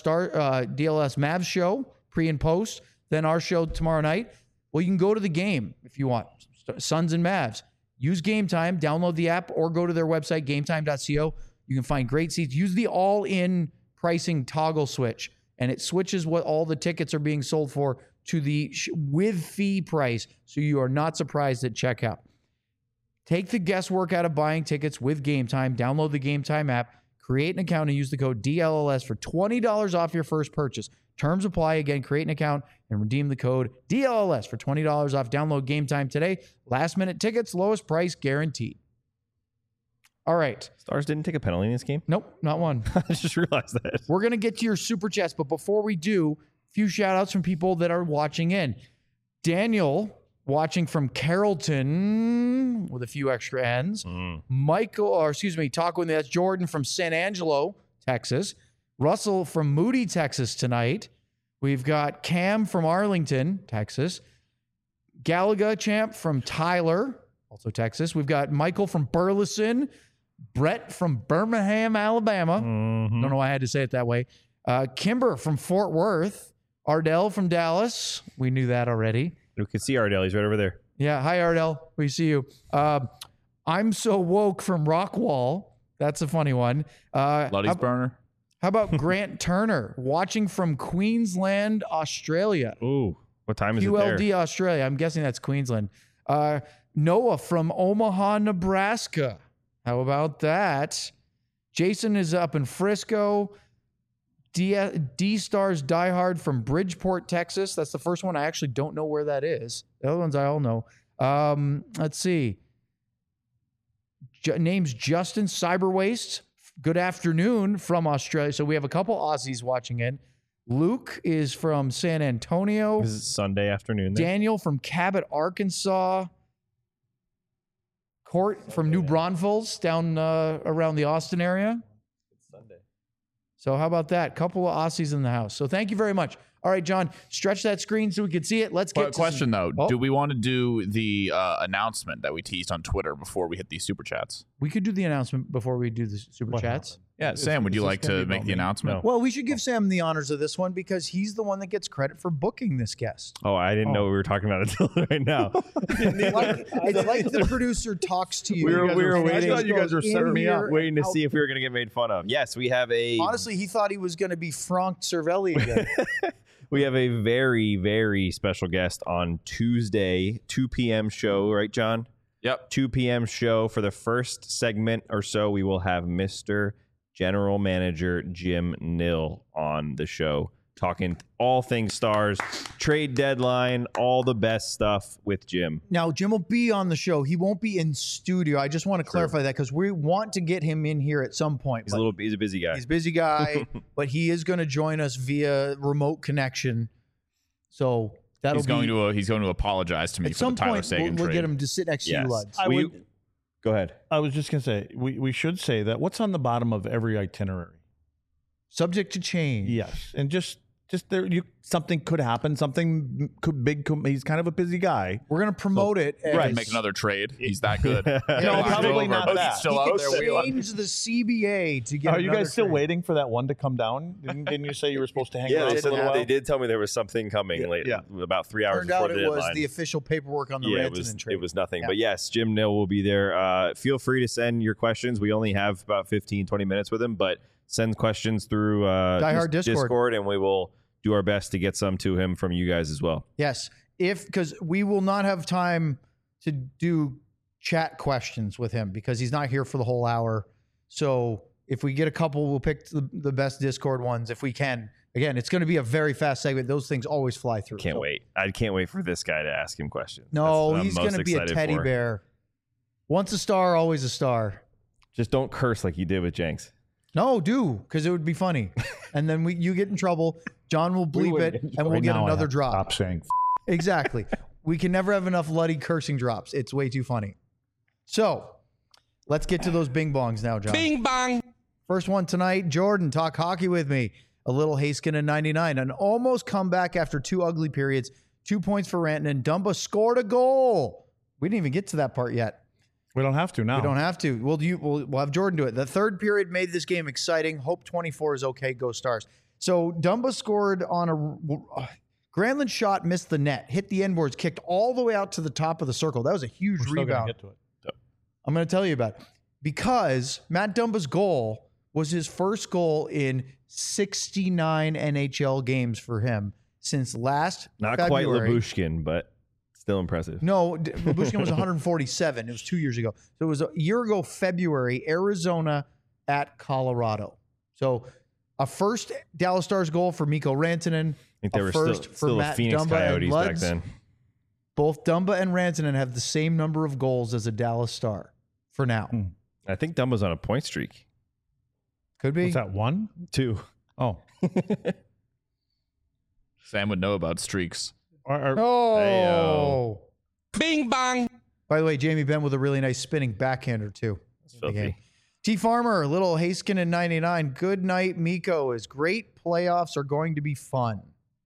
Mavs show, pre and post, then our show tomorrow night. Well, you can go to the game if you want. Suns and Mavs. Use Game Time. Download the app or go to their website, gametime.co. You can find great seats. Use the all-in pricing toggle switch, and it switches what all the tickets are being sold for to the with fee price, so you are not surprised at checkout. Take the guesswork out of buying tickets with Game Time. Download the Game Time app, create an account, and use the code DLLS for $20 off your first purchase. Terms apply. Again, create an account and redeem the code DLLS for $20 off. Download Game Time today. Last-minute tickets, lowest price guaranteed. All right. Stars didn't take a penalty in this game? Nope, not one. I just realized that. We're going to get to your super chats, but before we do, a few shout-outs from people that are watching in. Daniel, watching from Carrollton with a few extra N's. That's Jordan from San Angelo, Texas. Russell from Moody, Texas tonight. We've got Cam from Arlington, Texas. Galaga Champ from Tyler, also Texas. We've got Michael from Burleson. Brett from Birmingham, Alabama. Don't know why I had to say it that way. Kimber from Fort Worth. Ardell from Dallas. We knew that already. We can see Ardell. He's right over there. Yeah. Hi, Ardell. We see you. I'm So Woke from Rockwall. That's a funny one. Luddy's burner. How about Grant Turner watching from Queensland, Australia? Ooh. What time is it there? QLD Australia. I'm guessing that's Queensland. Noah from Omaha, Nebraska. How about that? Jason is up in Frisco. D-Stars Diehard from Bridgeport, Texas. That's the first one. I actually don't know where that is. The other ones I all know. Let's see. Name's Justin Cyberwaste. Good afternoon from Australia. So we have a couple Aussies watching in. Luke is from San Antonio. This is Sunday afternoon there. Daniel from Cabot, Arkansas. Court from New Braunfels down around the Austin area. It's Sunday. So how about that? Couple of Aussies in the house. So thank you very much. All right, John, stretch that screen so we can see it. Let's get to question, though. Oh. Do we want to do the announcement that we teased on Twitter before we hit these super chats? We could do the announcement before we do the super chats. Yeah, Sam, would you like to make the announcement? Well, we should give Sam the honors of this one because he's the one that gets credit for booking this guest. Oh, I didn't know we were talking about it until right now. It's like the producer talks to you. We were waiting. I thought you guys were setting me up. Waiting to see if we were going to get made fun of. Yes, we have a... Honestly, he thought he was going to be Frank Cervelli again. We have a very, very special guest on Tuesday, 2 p.m. show, right, John? Yep. 2 p.m. show. For the first segment or so, we will have Mr. General Manager Jim Nill on the show, talking all things Stars, trade deadline, all the best stuff with Jim. Now, Jim will be on the show. He won't be in studio. I just want to clarify that because we want to get him in here at some point. He's a busy guy. He's a busy guy, but he is going to join us via remote connection. So that'll he's going to apologize to me for the Tyler Seguin we'll trade. get him to sit next to you, Luds. Go ahead. I was just going to say, we should say that what's on the bottom of every itinerary? Subject to change. Yes. And just there, something could happen. Something he's kind of a busy guy. We're going to promote it. Right. Make another trade. He's that good. No, probably not that. He's still He out can there. change the CBA to get Are you guys still trade. waiting for that one to come down? Didn't you say you were supposed to hang around for a little while? They did tell me there was something coming late, about 3 hours Turned before out the it deadline. was the official paperwork on the Rantanen trade. It was nothing. Yeah. But yes, Jim Nill will be there. Feel free to send your questions. We only have about 15, 20 minutes with him, but send questions through Diehard Discord, and we will do our best to get some to him from you guys as well. Yes, because we will not have time to do chat questions with him because he's not here for the whole hour. So if we get a couple, we'll pick the best Discord ones if we can. Again, it's going to be a very fast segment. Those things always fly through. Can't wait. I can't wait for this guy to ask him questions. No, That's what he's I'm going to most be a excited teddy for. bear. Once a star, always a star. Just don't curse like you did with Jenks. No, do, because it would be funny. And then you get in trouble. John will bleep it, and we'll get another drop. Stop saying. Exactly. We can never have enough bloody cursing drops. It's way too funny. So let's get to those bing bongs now, John. Bing bong. First one tonight, Jordan, talk hockey with me. A little Haskin in 99. An almost comeback after 2 ugly periods. 2 points for Rantanen. Dumba scored a goal. We didn't even get to that part yet. We don't have to now. We don't have to. We'll have Jordan do it. The third period made this game exciting. Hope 24 is okay. Go Stars. So Dumba scored on a Granlund shot, missed the net, hit the end boards, kicked all the way out to the top of the circle. That was a huge We're still gonna rebound. get to it. I'm going to tell you about it. Because Matt Dumba's goal was his first goal in 69 NHL games for him since last Not February. quite Labushkin, but still impressive. No, Babushkin was 147. It was 2 years ago. So it was a year ago, February, Arizona at Colorado. So a first Dallas Stars goal for Mikko Rantanen. I think they were first still the Matt Phoenix Dumba Coyotes and back Luds. then. Both Dumba and Rantanen have the same number of goals as a Dallas Star for now. I think Dumba's on a point streak. Could be. What's that, 1? 2. Oh. Sam would know about streaks. Oh. Bing bong. By the way, Jamie Benn with a really nice spinning backhander too. Filthy. T Farmer, little Haskin in 99. Good night, Mikko. Is great. Playoffs are going to be fun.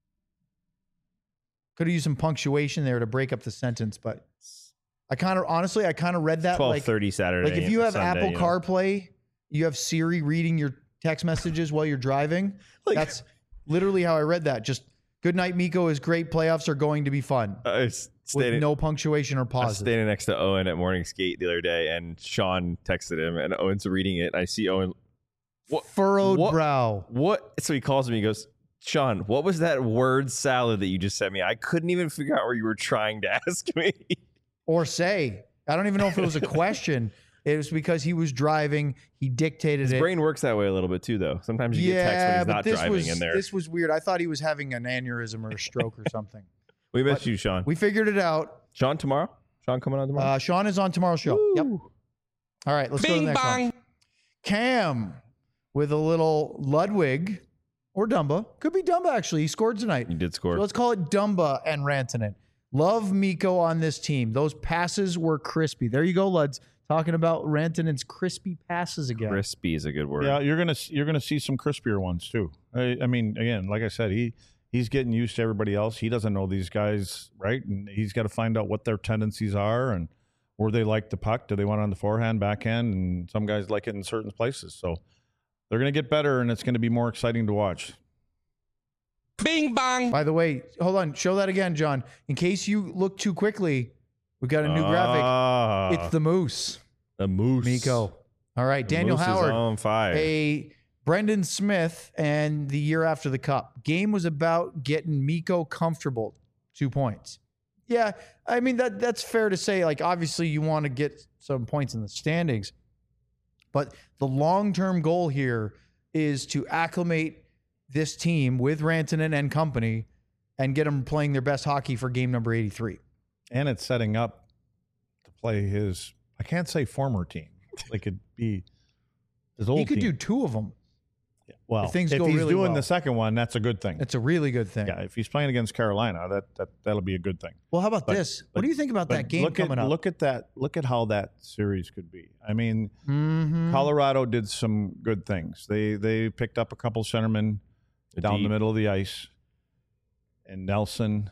Could have used some punctuation there to break up the sentence, but I kind of read that 12:30 Saturday. like if you have Sunday, Apple CarPlay, you have Siri reading your text messages while you're driving. That's literally how I read that. Just good night, Mikko. Is great. Playoffs are going to be fun. With no punctuation or I was pauses. standing next to Owen at morning skate the other day, and Sean texted him, and Owen's reading it. And I see Owen, Furrowed brow. what? So he calls me. He goes, Sean, what was that word salad that you just sent me? I couldn't even figure out where you were trying to ask me. Or say. I don't even know if it was a question. It was because he was driving. He dictated His it. brain works that way a little bit too, though. Sometimes you get text when he's not driving in there. This was weird. I thought he was having an aneurysm or a stroke or something. We missed you, Sean. We figured it out. Sean tomorrow? Sean coming on tomorrow? Sean is on tomorrow's show. Woo. Yep. All right, let's go to the next one. Cam with a little Ludwig or Dumba. Could be Dumba, actually. He scored tonight. He did score. So let's call it Dumba and Rantanen. Love Mikko on this team. Those passes were crispy. There you go, Luds. Talking about Rantanen's crispy passes again. Crispy is a good word. Yeah, you're gonna see some crispier ones too. I mean, again, like I said, he's getting used to everybody else. He doesn't know these guys, right? And he's got to find out what their tendencies are and where they like the puck. Do they want it on the forehand, backhand? And some guys like it in certain places. So they're going to get better, and it's going to be more exciting to watch. Bing bong. By the way, hold on. Show that again, John. In case you look too quickly, we got a new graphic. It's the Moose. The Moose. Mikko. All right, The Daniel Moose Howard. is on fire. A Brendan Smith and the year after the Cup. Game was about getting Mikko comfortable. 2 points. Yeah, I mean, that's fair to say. Like, obviously, you want to get some points in the standings. But the long-term goal here is to acclimate this team with Rantanen and company and get them playing their best hockey for game number 83. And it's setting up to play his, I can't say former team. Like it'd be his old He could team. do 2 of them. Well, if things if go he's really doing well. the second one, that's a good thing. It's a really good thing. Yeah, if he's playing against Carolina, that'll be a good thing. Well, how about this? What do you think about that game coming up? Look at that. Look at how that series could be. I mean, Mm-hmm. Colorado did some good things. They picked up a couple centermen down the middle of the ice, and Nelson.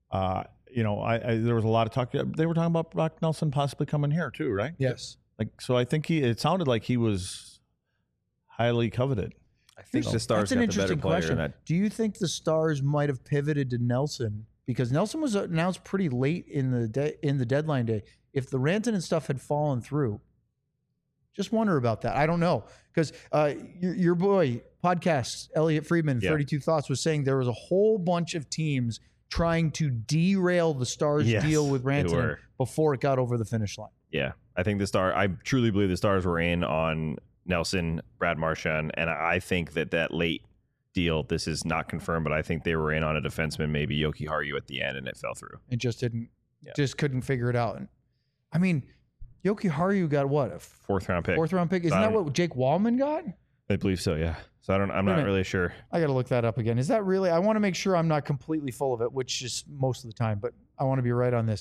There was a lot of talk. They were talking about Brock Nelson possibly coming here too, right? Yes. Like, so I think it sounded like he was highly coveted. I think the Stars That's an got the better interesting player. question. In that. Do you think the Stars might have pivoted to Nelson because Nelson was announced pretty late in the deadline day? If the Rantanen stuff had fallen through, just wonder about that. I don't know because your boy podcast Elliot Friedman, 32 Thoughts, was saying there was a whole bunch of teams trying to derail the Stars deal with Rantanen before it got over the finish line. Yeah, I think I truly believe the Stars were in on Nelson, Brad Marchand, and I think that late deal, this is not confirmed, but I think they were in on a defenseman, maybe Yoki Haru at the end, and it fell through. It just just couldn't figure it out. And, I mean, Yoki Haru got what? A fourth round pick. Isn't that what Jake Wallman got? I believe so, yeah. So I'm not really sure. I got to look that up again. Is that really? I want to make sure I'm not completely full of it, which is most of the time, but I want to be right on this.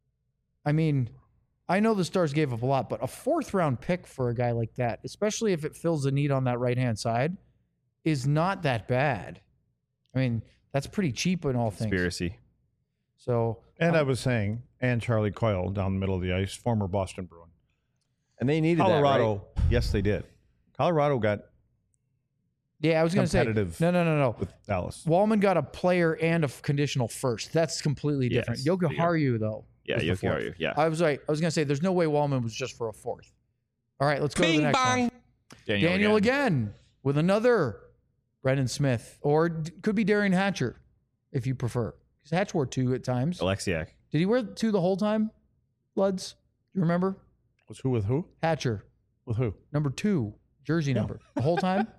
I mean, I know the Stars gave up a lot, but a 4th round pick for a guy like that, especially if it fills a need on that right-hand side, is not that bad. I mean, that's pretty cheap in all things. Conspiracy. So, And I was saying, and Charlie Coyle down the middle of the ice, former Boston Bruin. And they needed Colorado, that, right? Yes, they did. Colorado got yeah, I was going to say, competitive no. with Dallas. Wallman got a player and a conditional first. That's completely different. Yes, Yoki Haru, though. Yeah, was the Yoki 4th. Haru, yeah. I was right. I was going to say, there's no way Wallman was just for a 4th. All right, let's go to the next one. Daniel again with another Brendan Smith, or could be Darian Hatcher, if you prefer. Because Hatch wore 2 at times. Alexiak. Did he wear 2 the whole time, Luds? Do you remember? Was who with who? Hatcher, With who? number 2, jersey number. The whole time?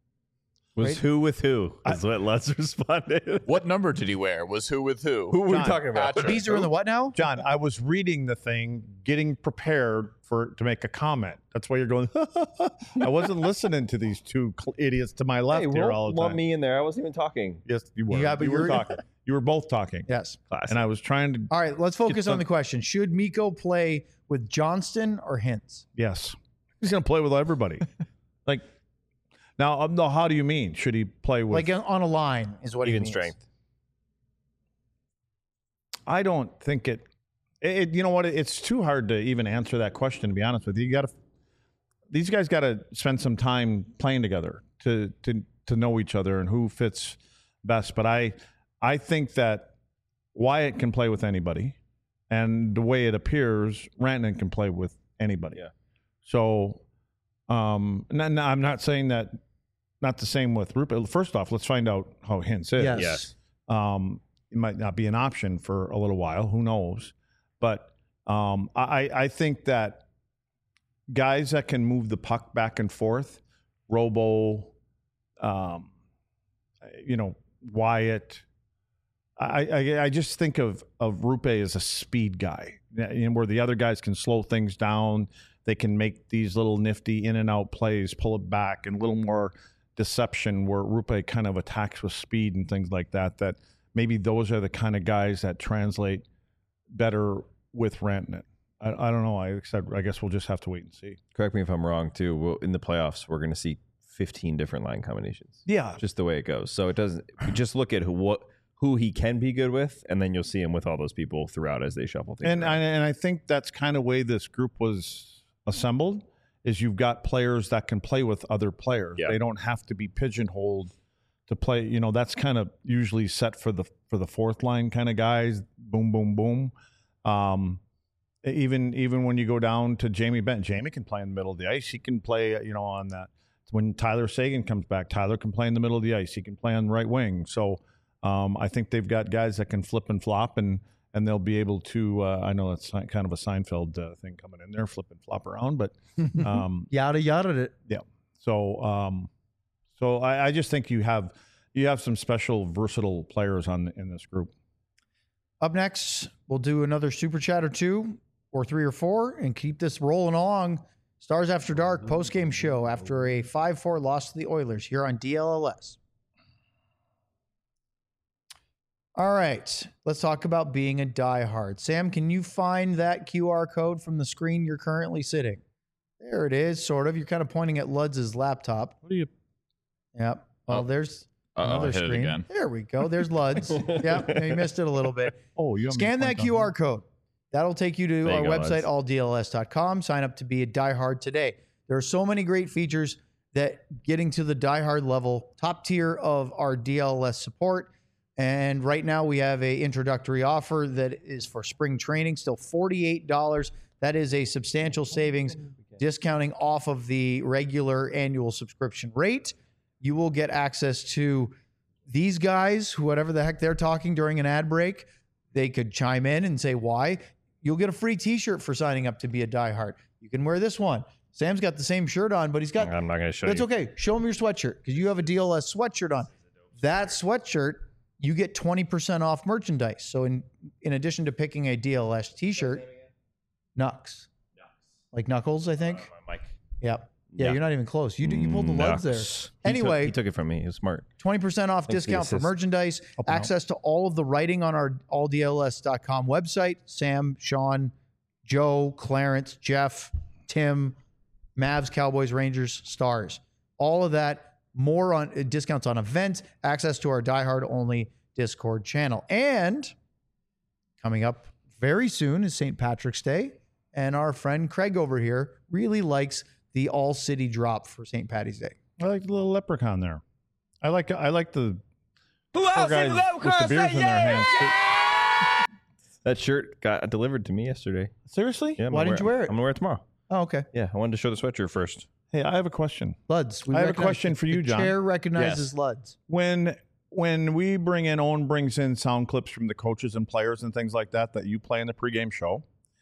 Was Right? who with who? Is what Lutz responded. What number did he wear? Was who with who? Who were we John, talking about? The bees are in the what now? John, I was reading the thing, getting prepared to make a comment. That's why you're going, I wasn't listening to these 2 idiots to my left here all the time. lump me in there. I wasn't even talking. Yes, you were. Yeah, but you were you're- talking. You were both talking. Yes. Classic. And I was trying to, All right, let's focus some- on the question. Should Mikko play with Johnston or Hintz? yes. He's going to play with everybody. Like, now, how do you mean? Should he play with? Like on a line is what he Even means. strength. I don't think it. You know what? It's too hard to even answer that question. To be honest with you, these guys got to spend some time playing together to know each other and who fits best. But I think that Wyatt can play with anybody, and the way it appears, Rantanen can play with anybody. Yeah. So, I'm not saying that not the same with Rupe. First off, let's find out how Hintz is. Yes. It might not be an option for a little while. Who knows? But I think that guys that can move the puck back and forth, Robo, Wyatt. I just think of Rupe as a speed guy, where the other guys can slow things down. They can make these little nifty in and out plays, pull it back, and a little more deception where Rupe kind of attacks with speed and things like that. That maybe those are the kind of guys that translate better with Rantanen. I don't know. I guess we'll just have to wait and see. Correct me if I'm wrong, too. In the playoffs, we're going to see 15 different line combinations. Yeah. Just the way it goes. So it doesn't – just look at who he can be good with, and then you'll see him with all those people throughout as they shuffle things and I think that's kind of way this group was assembled, is you've got players that can play with other players. Yeah. They don't have to be pigeonholed to play. That's kind of usually set for the fourth line kind of guys. Boom, boom, boom. Even when you go down to Jamie Benn, Jamie can play in the middle of the ice. He can play, on that. When Tyler Seguin comes back, Tyler can play in the middle of the ice. He can play on the right wing. So I think they've got guys that can flip and flop, and they'll be able to. I know that's kind of a Seinfeld thing coming in there, flip and flop around, but yada yada it. Yeah. So I just think you have some special versatile players in this group. Up next, we'll do another super chat or two, or 3 or 4, and keep this rolling along. Stars After Dark post-game show after a 5-4 loss to the Oilers here on DLLS. All right, let's talk about being a diehard. Sam, can you find that QR code from the screen you're currently sitting? There it is, sort of. You're kind of pointing at Ludz's laptop. What are you? Yep. Well, there's another hit screen. it again. There we go. There's Ludz. Yep, you missed it a little bit. Oh, you scan that QR code. That'll take you to our website, alldls.com. Sign up to be a diehard today. There are so many great features that getting to the diehard level, top tier of our DLS support. And right now we have an introductory offer that is for spring training, still $48. That is a substantial savings, discounting off of the regular annual subscription rate. You will get access to these guys, whatever the heck they're talking during an ad break. They could chime in and say why. You'll get a free t-shirt for signing up to be a diehard. You can wear this one. Sam's got the same shirt on, but he's got... I'm not going to show That's you. okay. Show him your sweatshirt because you have a DLS sweatshirt on. That sweatshirt, you get 20% off merchandise. So in addition to picking a DLS t-shirt, Nux. Like Knuckles, I think. My mic. Yep. Yeah, you're not even close. You pulled the lugs there. Anyway, he took it from me. He was smart. 20% off discount for merchandise, access to all of the writing on our alldls.com website. Sam, Sean, Joe, Clarence, Jeff, Tim, Mavs, Cowboys, Rangers, Stars. All of that, more on discounts on events, access to our diehard only Discord channel. And coming up very soon is St. Patrick's Day. And our friend Craig over here really likes the all city drop for St. Patty's Day. I like the little leprechaun there. I like the poor guys with the beers in their hands. That shirt got delivered to me yesterday. Seriously? Yeah, Why didn't you wear it? I'm going to wear it tomorrow. Oh, okay. Yeah, I wanted to show the sweatshirt first. Hey, I have a question. Luds. I have a question for you, John. The chair recognizes Luds. When we bring in, Owen brings in sound clips from the coaches and players and things like that you play in the pregame show.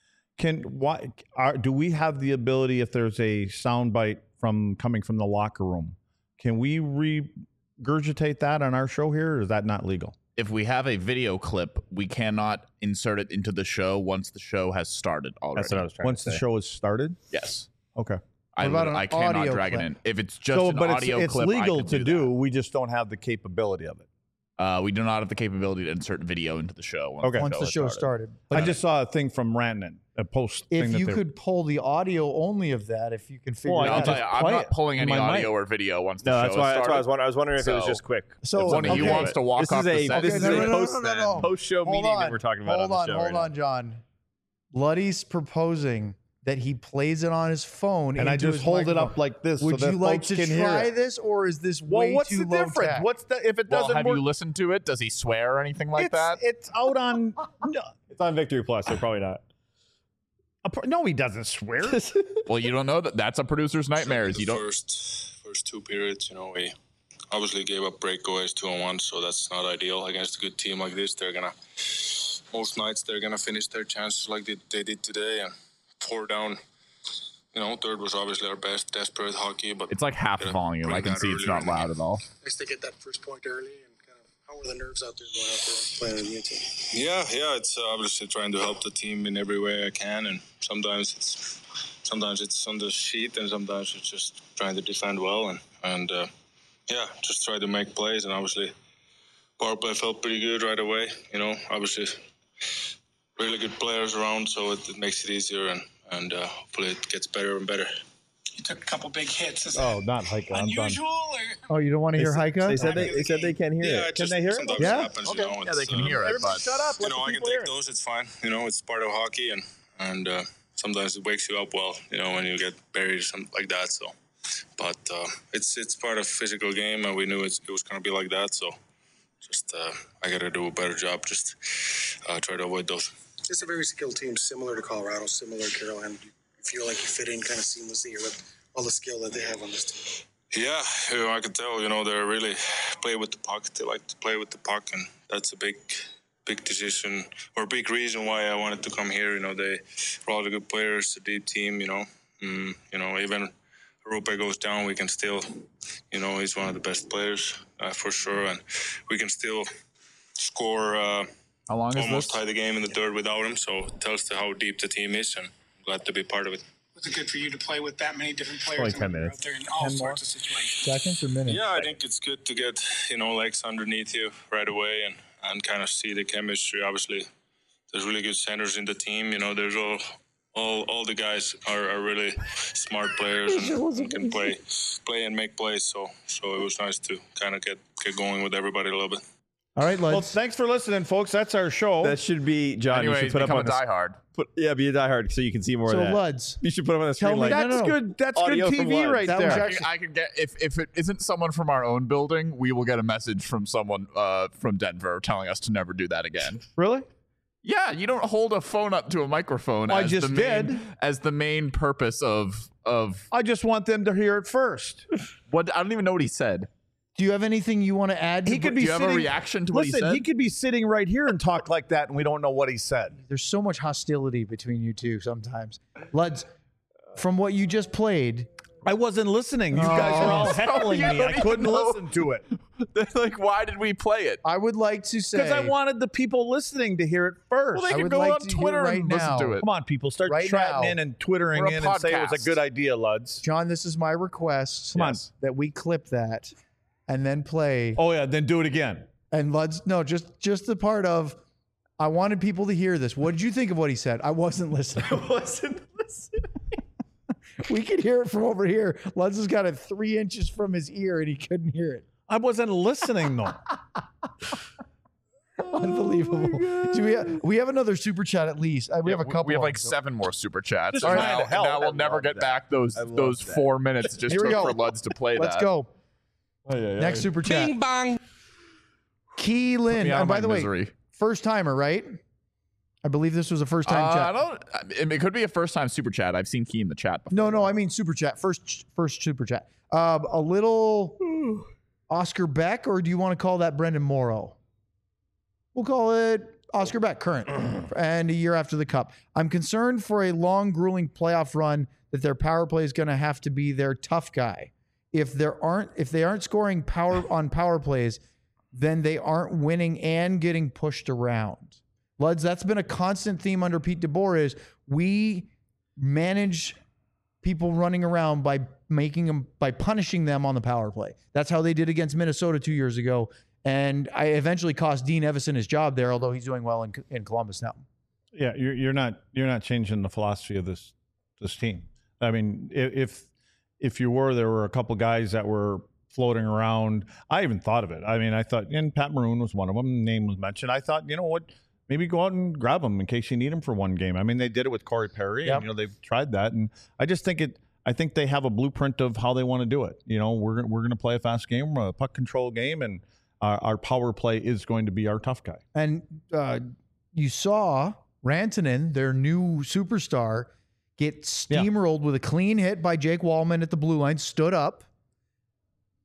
Do we have the ability, if there's a sound bite coming from the locker room, can we regurgitate that on our show here, or is that not legal? If we have a video clip, we cannot insert it into the show once the show has started already. That's what I was trying Once to say. the show has started? Yes. Okay. I cannot audio drag clip? it in. If it's just an audio it's clip, legal I can to do do. We just don't have the capability of it. We do not have the capability to insert video into the show. Once the show started. I just saw a thing from Rantanen, a post thing If that you they- could pull the audio only of that, if you can figure it I'll out. tell you, I'm play not it pulling any in my audio mic. or video once the No, show that's why started. I was wondering if it was So- just quick. So, One of you okay. wants to walk This off is the a set. this is a No. post-show Hold meeting on. that we're talking about on the show Hold on, John. Luddy's proposing that he plays it on his phone, and I into just his hold it microphone. up like this Would so that you like folks to can hear try it. this, or is this Well, way what's too the low difference? tech? If it Well, doesn't have work? you listened to it? Does he swear or anything like that? It's out on. No, It's on Victory Plus, so probably not. no, he doesn't swear. Well, you don't know that. That's a producer's nightmares. The You don't. first 2 periods, we obviously gave up breakaways 2-on-1, so that's not ideal against a good team like this. Most nights they're gonna finish their chances like they did today, and 4 down. Third was obviously our best, desperate hockey, but it's like half volume. I can see it's not loud at all. Nice to get that first point early, and kind of how were the nerves out there going out there and playing with the team? Yeah, it's obviously trying to help the team in every way I can, and sometimes it's on the sheet, and sometimes it's just trying to defend well, and just try to make plays, and obviously power play felt pretty good right away. Obviously really good players around, so it makes it easier, and hopefully it gets better and better. You took a couple big hits. Is Oh, not Heike. unusual? Oh, you don't want to hear Heike? They said they can't hear Yeah, it. it just they hear it? sometimes Yeah? happens, Okay. Yeah, they can hear it, but Shut up. I can take those. It's fine. It's part of hockey, and sometimes it wakes you up well. When you get buried or something like that. So, but it's part of physical game, and we knew it was going to be like that. So, just I got to do a better job. Just try to avoid those. It's a very skilled team, similar to Colorado, similar to Carolina. Do you feel like you fit in kind of seamlessly here with all the skill that they have on this team? Yeah, I can tell. They really play with the puck. They like to play with the puck, and that's a big decision or big reason why I wanted to come here. They are all the good players, a deep team. Even Rupe goes down, we can still. He's one of the best players for sure, and we can still score. how long is Almost this? tie the game in the third without him, so it tells how deep the team is, and I'm glad to be part of it. Was it good for you to play with that many different players? Only 10 minutes. Out there in all sorts of situations. Seconds or minutes? Yeah, I think it's good to get legs underneath you right away and kind of see the chemistry. Obviously, there's really good centers in the team. There's all the guys are really smart players and can play and make plays. So it was nice to kind of get going with everybody a little bit. All right, Well, let's. thanks for listening, folks. That's our show. That should be John. Anyways, you should put up become on a diehard. be a diehard so you can see more So, of that. Luds, You should put them on the Tell screen. me Like, that- That's no, no. good. That's Audio good from TV Lud. right That there. was actually- I could get if it isn't someone from our own building, we will get a message from someone from Denver telling us to never do that again. Really? Yeah, you don't hold a phone up to a microphone. I as just the main, did. as the main purpose of I just want them to hear it first. what I don't even know what he said. do you have anything you want to add? He could be Do you have a sitting- reaction to what he Listen, said? he could be sitting right here and talk like that, and we don't know what he said. There's so much hostility between you two sometimes. Luds, from what you just played, I wasn't listening. You guys are all heckling you me. I don't couldn't even know. listen to it Like, why did we play it? I would like to say. because I wanted the people listening to hear it first. Well, they I could would go like on to hear Twitter right and listen now. to it. Come on, people, start Right chatting now. in and twittering We're a in and say it was a podcast. good idea, Luds. John, this is my request. Come on. Yes. That we clip that and then play. Oh yeah, then do it again. And Luds, no, just the part of, I wanted people to hear this. What did you think of what he said? I wasn't listening. We could hear it from over here. Luds has got it 3 inches from his ear and he couldn't hear it. I wasn't listening though. Unbelievable. Do we have another super chat at least? We have a couple. We have of like them. 7 more super chats. Just And trying now, to help. now we'll I never love get that. back those I love 4 minutes it just Here we took go. for Luds to play Let's that. go. Oh, yeah, Next super chat. Bing bong. Key Lynn. Me out And of by my the way, misery. first timer, right? I believe this was a first time I chat. don't. It could be a first time super chat. I've seen Key in the chat before. No, I mean super chat. First super chat. A little Oscar Beck, or do you want to call that Brendan Morrow? We'll call it Oscar Beck, current, and a year after the Cup. I'm concerned for a long, grueling playoff run that their power play is going to have to be their tough guy. If they aren't scoring on power plays, then they aren't winning and getting pushed around. Luds, that's been a constant theme under Pete DeBoer is we manage people running around by punishing them on the power play. That's how they did against Minnesota 2 years ago. And I eventually cost Dean Evison his job there, although he's doing well in Columbus now. Yeah, you're not changing the philosophy of this team. I mean, if you were, there were a couple guys that were floating around. I even thought of it. I mean, I thought, and Pat Maroon was one of them. Name was mentioned. I thought, you know what? Maybe go out and grab him in case you need him for one game. I mean, they did it with Corey Perry, Yep. and they've tried that, and I just think I think they have a blueprint of how they want to do it. We're going to play a fast game, a puck control game, and our power play is going to be our tough guy. And you saw Rantanen, their new superstar, get steamrolled with a clean hit by Jake Wallman at the blue line, stood up.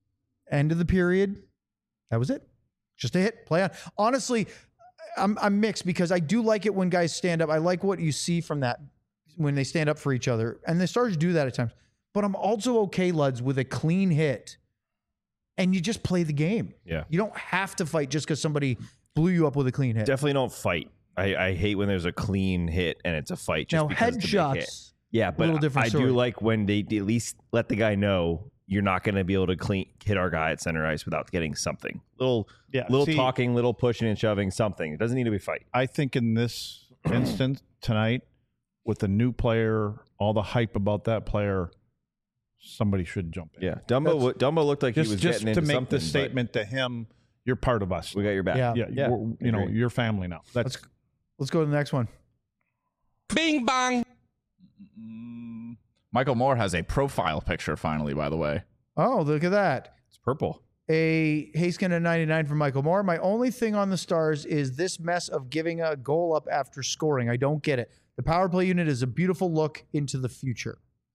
End of the period. That was it. Just a hit. Play on. Honestly, I'm mixed because I do like it when guys stand up. I like what you see from that when they stand up for each other. And the Stars do that at times. But I'm also okay, Luds, with a clean hit. And you just play the game. Yeah. You don't have to fight just because somebody blew you up with a clean hit. Definitely don't fight. I hate when there's a clean hit and it's a fight just now, because it's a big hit. headshots. Yeah, but little different I story. do like when they at least let the guy know you're not going to be able to hit our guy at center ice without getting something. Little talking, little pushing and shoving, something. It doesn't need to be fight. I think in this instance tonight, with the new player, all the hype about that player, somebody should jump in. Yeah, Dumbo looked like he was getting into to make something, the statement to him, you're part of us. We got your back. Yeah. You're family now. Let's go to the next one. Bing bang. Michael Moore has a profile picture finally, by the way. Oh, look at that. It's purple. A Haskin at 99 from Michael Moore. My only thing on the Stars is this mess of giving a goal up after scoring. I don't get it. The power play unit is a beautiful look into the future.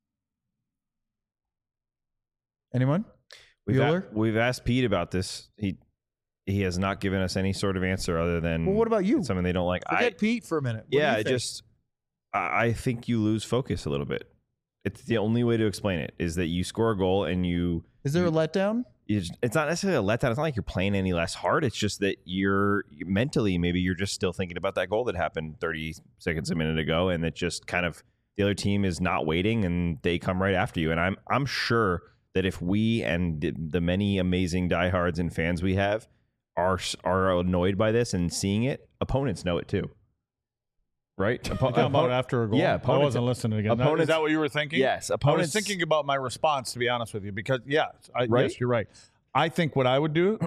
Anyone? We've asked Pete about this. He has not given us any sort of answer other than Well, what about you? Something they don't like. Forget Pete for a minute. What do you think? I think you lose focus a little bit. It's the only way to explain it is that you score a goal and Is there a letdown? It's not necessarily a letdown. It's not like you're playing any less hard. It's just that you're mentally, maybe you're just still thinking about that goal that happened 30 seconds a minute ago, and that just kind of the other team is not waiting and they come right after you. And I'm sure that if we and the many amazing diehards and fans we have are annoyed by this and seeing it, opponents know it too. Right? Talking about after a goal? Yeah, I wasn't listening again. Is that what you were thinking? Yes. I was thinking about my response, to be honest with you, because, yes, you're right. I think what I would do,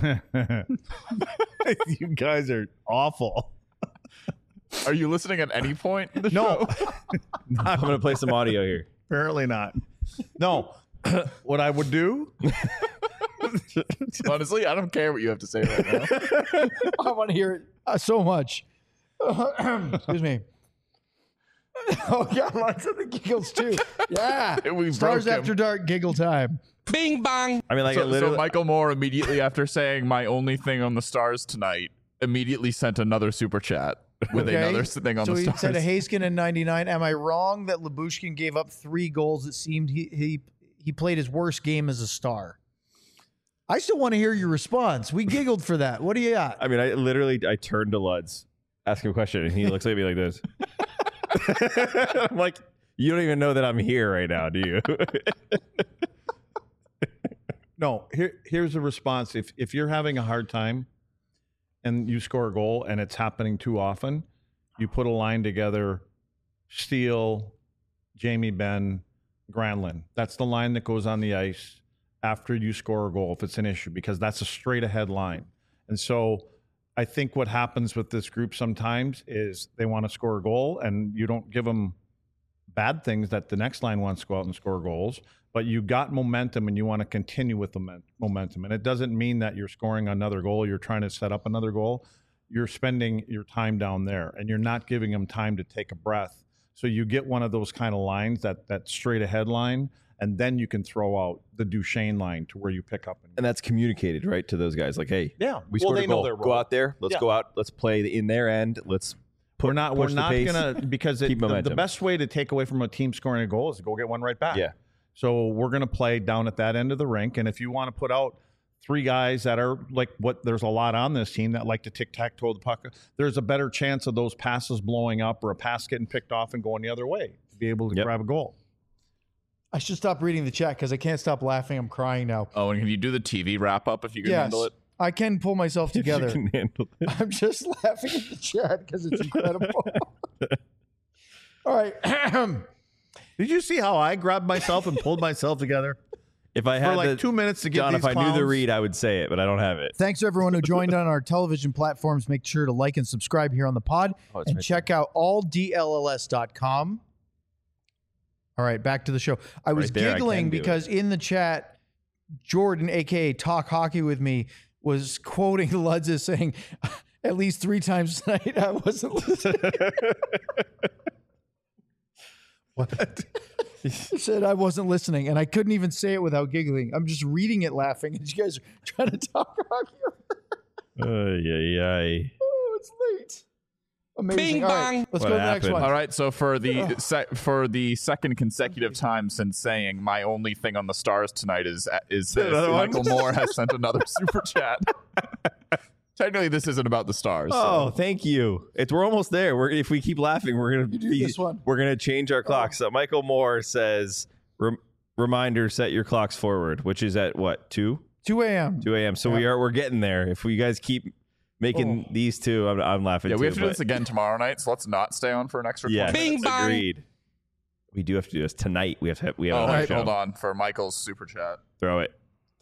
you guys are awful. Are you listening at any point? No. I'm going to play some audio here. Apparently not. No. What I would do. Honestly, I don't care what you have to say right now. I want to hear it so much. Excuse me. Oh, God, lots of the giggles, too. Yeah. Stars After Dark giggle time. Bing bang. I mean, like, so Michael Moore, immediately after saying my only thing on the Stars tonight, immediately sent another super chat with another thing on the Stars. So he said a Haskin in 99. Am I wrong that Lyubushkin gave up 3 goals? It seemed he played his worst game as a Star. I still want to hear your response. We giggled for that. What do you got? I mean, I turned to Luds, ask him a question, and he looks at me like this. I'm like, you don't even know that I'm here right now, do you? No, here's the response. If you're having a hard time and you score a goal and it's happening too often, you put a line together, Steele, Jamie Benn, Granlund. That's the line that goes on the ice after you score a goal if it's an issue, because that's a straight ahead line. And so I think what happens with this group sometimes is they want to score a goal and you don't give them bad things that the next line wants to go out and score goals, but you got momentum and you want to continue with the momentum. And it doesn't mean that you're scoring another goal, you're trying to set up another goal. You're spending your time down there and you're not giving them time to take a breath. So you get one of those kind of lines, that straight ahead line, and then you can throw out the Duchesne line to where you pick up. And that's communicated, right, to those guys. Like, hey, we well, scored they a goal. know their role. Go out there. Let's go out. Let's play in their end. Let's we're not going to, because the best way to take away from a team scoring a goal is to go get one right back. Yeah. So we're going to play down at that end of the rink. And if you want to put out 3 guys that are like there's a lot on this team that like to tic-tac-toe the puck, there's a better chance of those passes blowing up or a pass getting picked off and going the other way to be able to grab a goal. I should stop reading the chat because I can't stop laughing. I'm crying now. Oh, and can you do the TV wrap up if you can handle it? I can pull myself together. You can handle it. I'm just laughing at the chat because it's incredible. All right. Did you see how I grabbed myself and pulled myself together? If I had for 2 minutes to get John, these if I knew the clowns? read, I would say it, but I don't have it. Thanks to everyone who joined on our television platforms. Make sure to like and subscribe here on the pod and check out alldlls.com. All right, back to the show. I was giggling because in the chat, Jordan, a.k.a. Talk Hockey With Me, was quoting Luds as saying, at least 3 times tonight, I wasn't listening. What? I said I wasn't listening, and I couldn't even say it without giggling. I'm just reading it laughing, and you guys are trying to talk hockey. Oh, it's late. Amazing. Bing All right, bong. let's What go to the next happened? one. All right, so for the second consecutive time since saying my only thing on the Stars tonight is this. Michael Moore has sent another super chat. Technically, this isn't about the Stars. Oh, thank you. We're almost there. If we keep laughing, we're gonna change our clocks. So Michael Moore says, "Reminder: set your clocks forward," which is at what 2 a.m. 2 a.m. So we're getting there. If you guys keep making these two, I'm laughing. Yeah, too, we have to do this again tomorrow night, so let's not stay on for an extra 20 Yeah, minutes. Bing bong. agreed. We do have to do this tonight. We have Oh, another show. hold on for Michael's super chat. Throw it.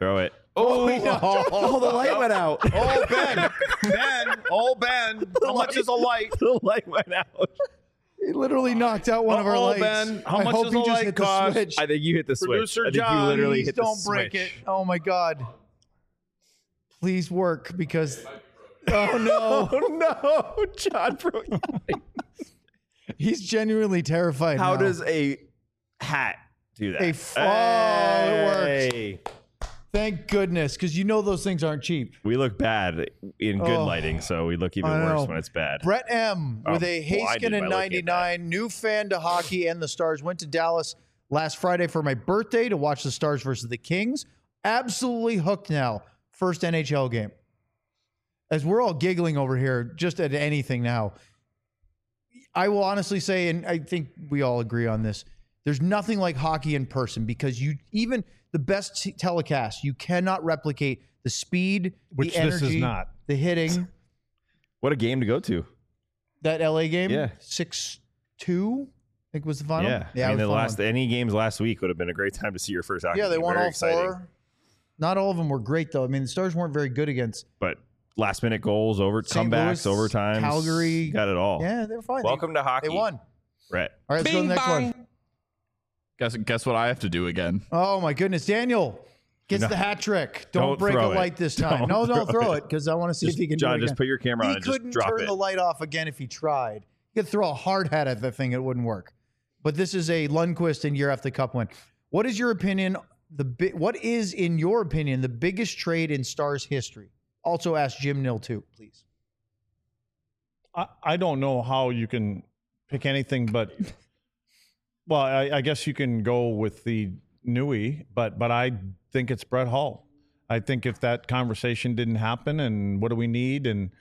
Oh, the light went out. Oh, Ben. Ben. How much is a light? The light went out. He literally knocked out one of our lights. Ben. How I much hope does he a just light hit the cost? switch. I think you hit the switch. Producer I think John, you literally Please hit the don't break switch. it. Oh my God. Please work because. Oh no. Oh no, John broke. He's genuinely terrified. How now. does a hat do that? It works. Thank goodness, because you know those things aren't cheap. We look bad in good lighting, so we look even I know. worse when it's bad. Brett M. with a blinded Haskin in by looking at 99, new fan to hockey and the Stars. Went to Dallas last Friday for my birthday to watch the Stars versus the Kings. Absolutely hooked now. First NHL game. As we're all giggling over here, just at anything now, I will honestly say, and I think we all agree on this, there's nothing like hockey in person because even the best telecast, you cannot replicate the speed, Which the energy, this is not. the hitting. What a game to go to. That LA game, Yeah. 6-2, I think was the final. Yeah. it I mean, was the a fun last one. any games last week would have been a great time to see your first hockey Yeah, they game. won Very all exciting. 4. Not all of them were great though. I mean, the Stars weren't very good against. But last minute goals, St. comebacks, Louis, overtimes, Calgary. got it all. Yeah, they were fine. Welcome to hockey. They won. Brett. All right, let's go to the Bing next bong. one. Guess what I have to do again? Oh my goodness, Daniel gets the hat trick. Don't break a throw it. light this time. Don't Don't throw throw it. it because I want to see if he can. John, do it just again. put your camera on He and just couldn't drop turn it. the light off again if he tried. He could throw a hard hat at the thing; it wouldn't work. But this is a Lundqvist and year after Cup win. What is your opinion? What is, in your opinion, the biggest trade in Stars history? Also, ask Jim Nill too, please. I don't know how you can pick anything but. Well, I guess you can go with the Nui, but I think it's Brett Hull. I think if that conversation didn't happen, and what do we need, and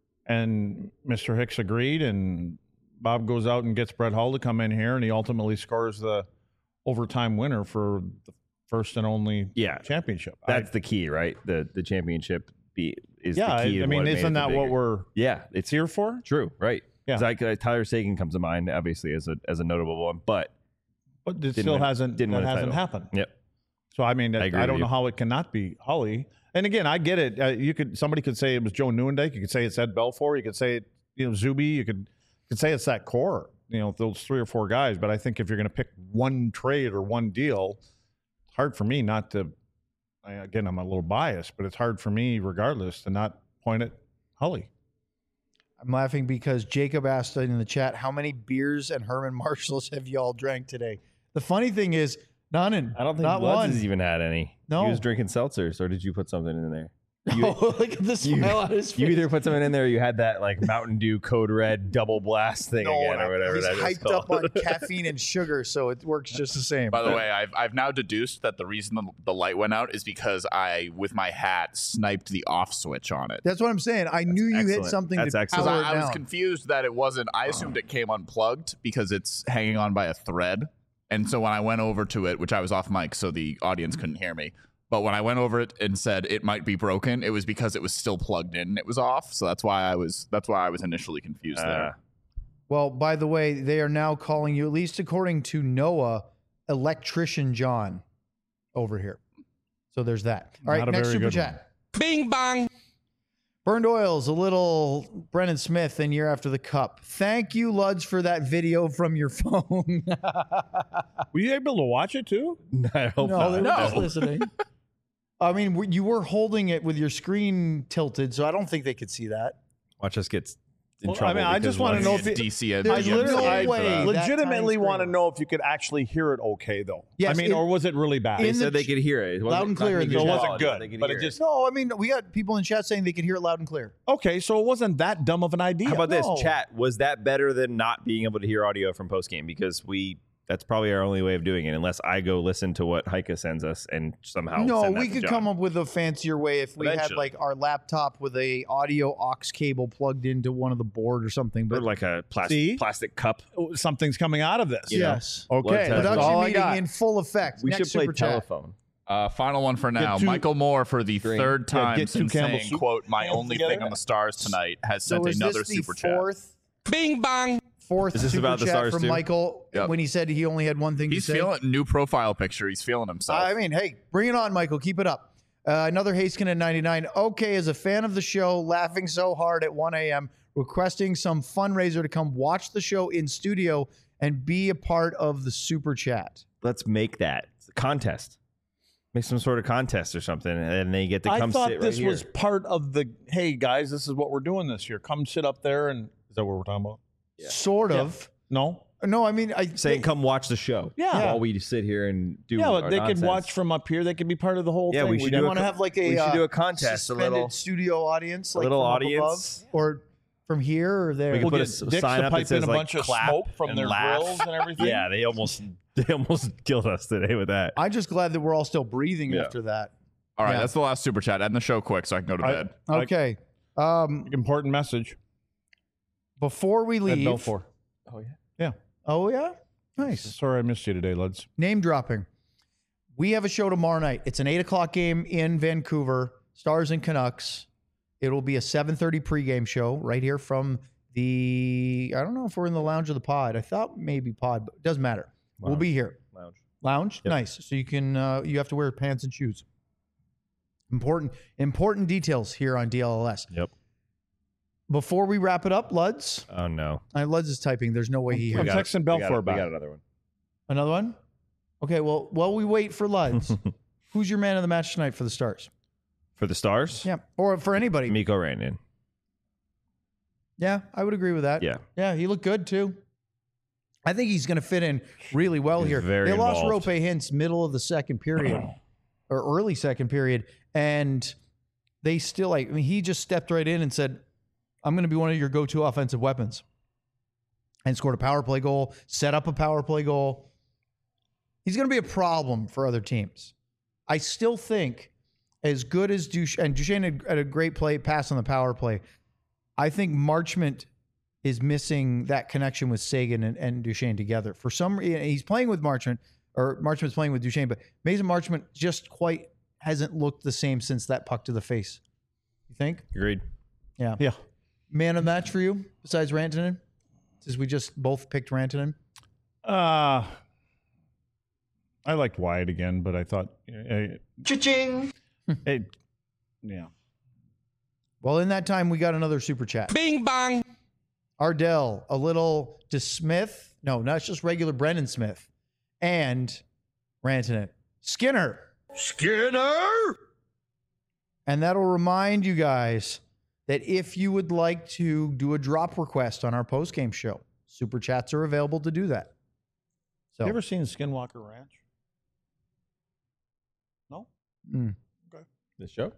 Mr. Hicks agreed, and Bob goes out and gets Brett Hull to come in here, and he ultimately scores the overtime winner for the first and only championship. That's the key, right? The championship is the key. I mean, isn't that what we're it's here for? True, right? Yeah. Tyler Seguin comes to mind, obviously, as a notable one, but it still hasn't happened. Yep. So I mean, I agree with don't you. know how it cannot be Hully. And again, I get it. Somebody could say it was Joe Nieuwendyk. You could say it's Ed Belfour. You could say it, Zuby. You could say it's that core. Those 3 or 4 guys. But I think if you're going to pick one trade or one deal, it's hard for me not to. Again, I'm a little biased, but it's hard for me, regardless, to not point at Hully. I'm laughing because Jacob asked in the chat, how many beers and Herman Marshalls have y'all drank today? The funny thing is, none. I don't think not Bloods one. has even had any. No. He was drinking seltzers, or did you put something in there? Look at the smile on his face. You either put something in there, or you had that like Mountain Dew Code Red double blast thing again, or whatever He's that is hyped called. up on caffeine and sugar, so it works just the same. By the way, I've now deduced that the reason the light went out is because I, with my hat, sniped the off switch on it. That's what I'm saying. I knew you hit excellent. something That's to excellent. power it I was down. confused that it wasn't. I assumed it came unplugged because it's hanging on by a thread. And so when I went over to it, which I was off mic, so the audience couldn't hear me. But when I went over it and said it might be broken, it was because it was still plugged in and it was off. So that's why I was initially confused there. Well, by the way, they are now calling you, at least according to Noah, Electrician John over here. So there's that. All right, Not a next very super good chat. Bing bong. Burned Oils, a little Brennan Smith in year after the Cup. Thank you, Luds, for that video from your phone. Were you able to watch it too? I hope No, they not. were just listening. I mean, you were holding it with your screen tilted, so I don't think they could see that. Watch us get in trouble. I just want to know if it, DC and There's I no way that legitimately tiny want to screen- know if you could actually hear it okay, though. Yes, I mean, or was it really bad? They in the said they could hear it. It loud wasn't- and clear not in the good So it chat. wasn't quality, good, they could but hear it just No, I mean, we got people in chat saying they could hear it loud and clear. okay. So it wasn't that dumb of an idea. How about No. this chat? Was that better than not being able to hear audio from post game? Because that's probably our only way of doing it, unless I go listen to what Heike sends us and somehow. No, send that we to could John. come up with a fancier way if we had Eventually. like our laptop with a audio aux cable plugged into one of the board or something. Or But like a See? plastic cup. Something's coming out of this. yes, Blood Okay. test. That's production all I meeting got. in full effect. We Next should play super chat. telephone. Final one for now. two- Michael Moore, for the Green. third time get two since Campbell saying, soup quote, my cans only together. thing on the Stars tonight, has So sent is another this the super chat. Bing bong. Fourth Is this super about the chat Stars from too? Michael Yep. when he said he only had one thing He's to say? feeling new profile picture. He's feeling himself. I mean, hey, bring it on, Michael. Keep it up. Another Haskin at 99. Okay, as a fan of the show, laughing so hard at 1 a.m., requesting some fundraiser to come watch the show in studio and be a part of the super chat. Let's make that a contest. Make some sort of contest or something, and they get to I come thought sit this right was here. part of the. Hey guys, this is what we're doing this year. Come sit up there, and is that what we're talking about? Sort of. No. No, I mean, Saying, come watch the show. Yeah. While we sit here and do. Yeah, but our they nonsense. could watch from up here. They could be part of the whole Yeah, thing. we should don't do a want to have like a we should do a contest, a suspended little- studio audience, like little from up audience. above, or from here or there. We could We'll put get a Dicks sign to up that pipe says, in a like, bunch of clap smoke from and their laugh. grills and everything. Yeah, they almost killed us today with that. I'm just glad that we're all still breathing Yeah. after that. All right, Yeah. that's the last super chat. End the show quick so I can go to bed. Okay. Important message. Before we At leave. Belfour. Oh, yeah? Nice. Sorry I missed you today, lads. Name dropping. We have a show tomorrow night. It's an 8 o'clock game in Vancouver, Stars and Canucks. It'll be a 7:30 pregame show right here from the, I don't know if we're in the lounge of the pod. I thought maybe pod, but it doesn't matter. We'll be here. Lounge? Yep. Nice. So you can, you have to wear pants and shoes. Important details here on DLLS. Yep. Before we wrap it up, Luds. Oh no. Luds is typing. There's no way he I'm hears. texting We Belfour we back. got another one. Another one? Okay, well, while we wait for Luds, who's your man of the match tonight for the Stars? For the Stars? Yeah, or for anybody. Mikko Rantanen. Yeah, I would agree with that. Yeah. Yeah, he looked good too. I think he's going to fit in really well He's here. very They lost involved. Rope Hintz middle of the second period or early second period, and they still he just stepped right in and said, "I'm going to be one of your go-to offensive weapons," and scored a power play goal, set up a power play goal. He's going to be a problem for other teams. I still think, as good as Duchesne had a great play pass on the power play. I think Marchment is missing that connection with Sagan and Duchesne together. For some reason, he's playing with Marchment, or Marchment's playing with Duchesne, but Mason Marchment just quite hasn't looked the same since that puck to the face. You think? Agreed. Yeah. Yeah. Man of the match for you, besides Rantanen? Since we just both picked Rantanen. I liked Wyatt again, but I thought, Cha-ching! yeah. Well, in that time, we got another super chat. Bing bong. Ardell, a little to Smith. No, not just regular Brendan Smith. And Rantanen. Skinner. And that'll remind you guys that if you would like to do a drop request on our postgame show, super chats are available to do that. So, You ever seen Skinwalker Ranch? No? The show?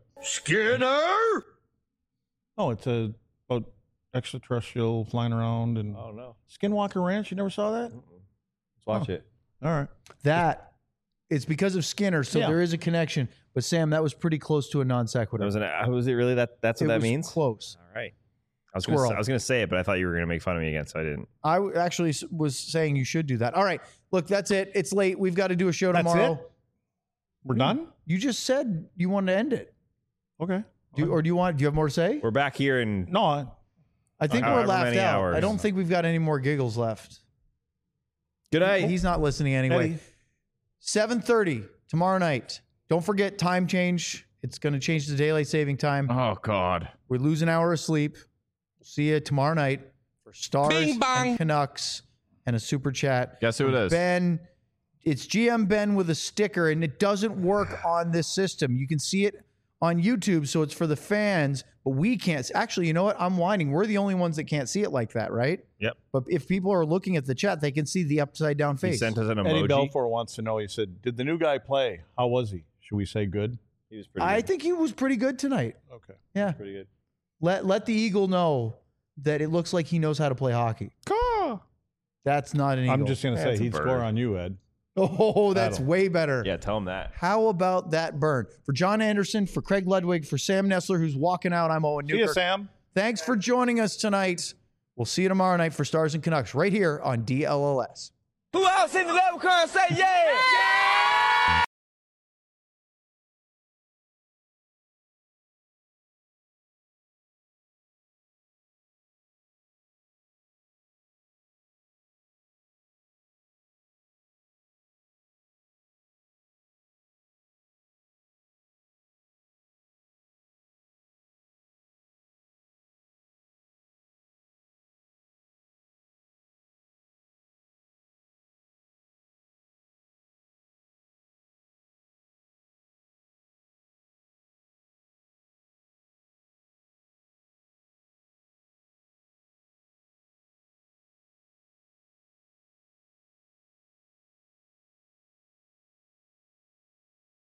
Oh, it's about extraterrestrial flying around and Oh no. Skinwalker Ranch. You never saw that? Let's watch it. All right. that it's because of Skinner, so Yeah. there is a connection. But Sam, that was pretty close to a non sequitur. Was it really that's what It that was means? close. All right. I Squirrel. was gonna say it, but I thought you were gonna make fun of me again, so I didn't. I actually was saying you should do that. All right, look, that's it. It's late. We've got to do a show That's tomorrow. it? We're done? You just said you wanted to end it. Okay. Do you have more to say? We're back here and No, I think we're however laughed many out. hours. I don't think we've got any more giggles left. good night. He's not listening anyway. Hey. 7:30 tomorrow night. Don't forget time change. It's going to change to daylight saving time. Oh, God. We lose an hour of sleep. We'll see you tomorrow night for Stars Bing bong. and Canucks and a super chat. Guess who it is? Ben. It's GM Ben with a sticker, and it doesn't work on this system. You can see it on YouTube, so it's for the fans, but we can't. Actually, you know what? I'm whining. We're the only ones that can't see it like that, right? Yep. But if people are looking at the chat, they can see the upside down He face. sent us an Eddie emoji. Belfour wants to know. He said, "Did the new guy play? How was he? Should we say good?" He was pretty I good. think he was pretty good tonight. Okay. Yeah. Pretty good. Let the Eagle know that it looks like he knows how to play hockey. That's not an Eagle. I'm just gonna say That's a he'd bird. score on you, Ed. Oh, that's Battle. way better. Yeah, tell him that. How about that burn? For John Anderson, for Craig Ludwig, for Sam Nessler, who's walking out, I'm Owen See you, Newkirk. Sam. Thanks for joining us tonight. We'll see you tomorrow night for Stars and Canucks right here on DLLS. Who else in the level car say yeah?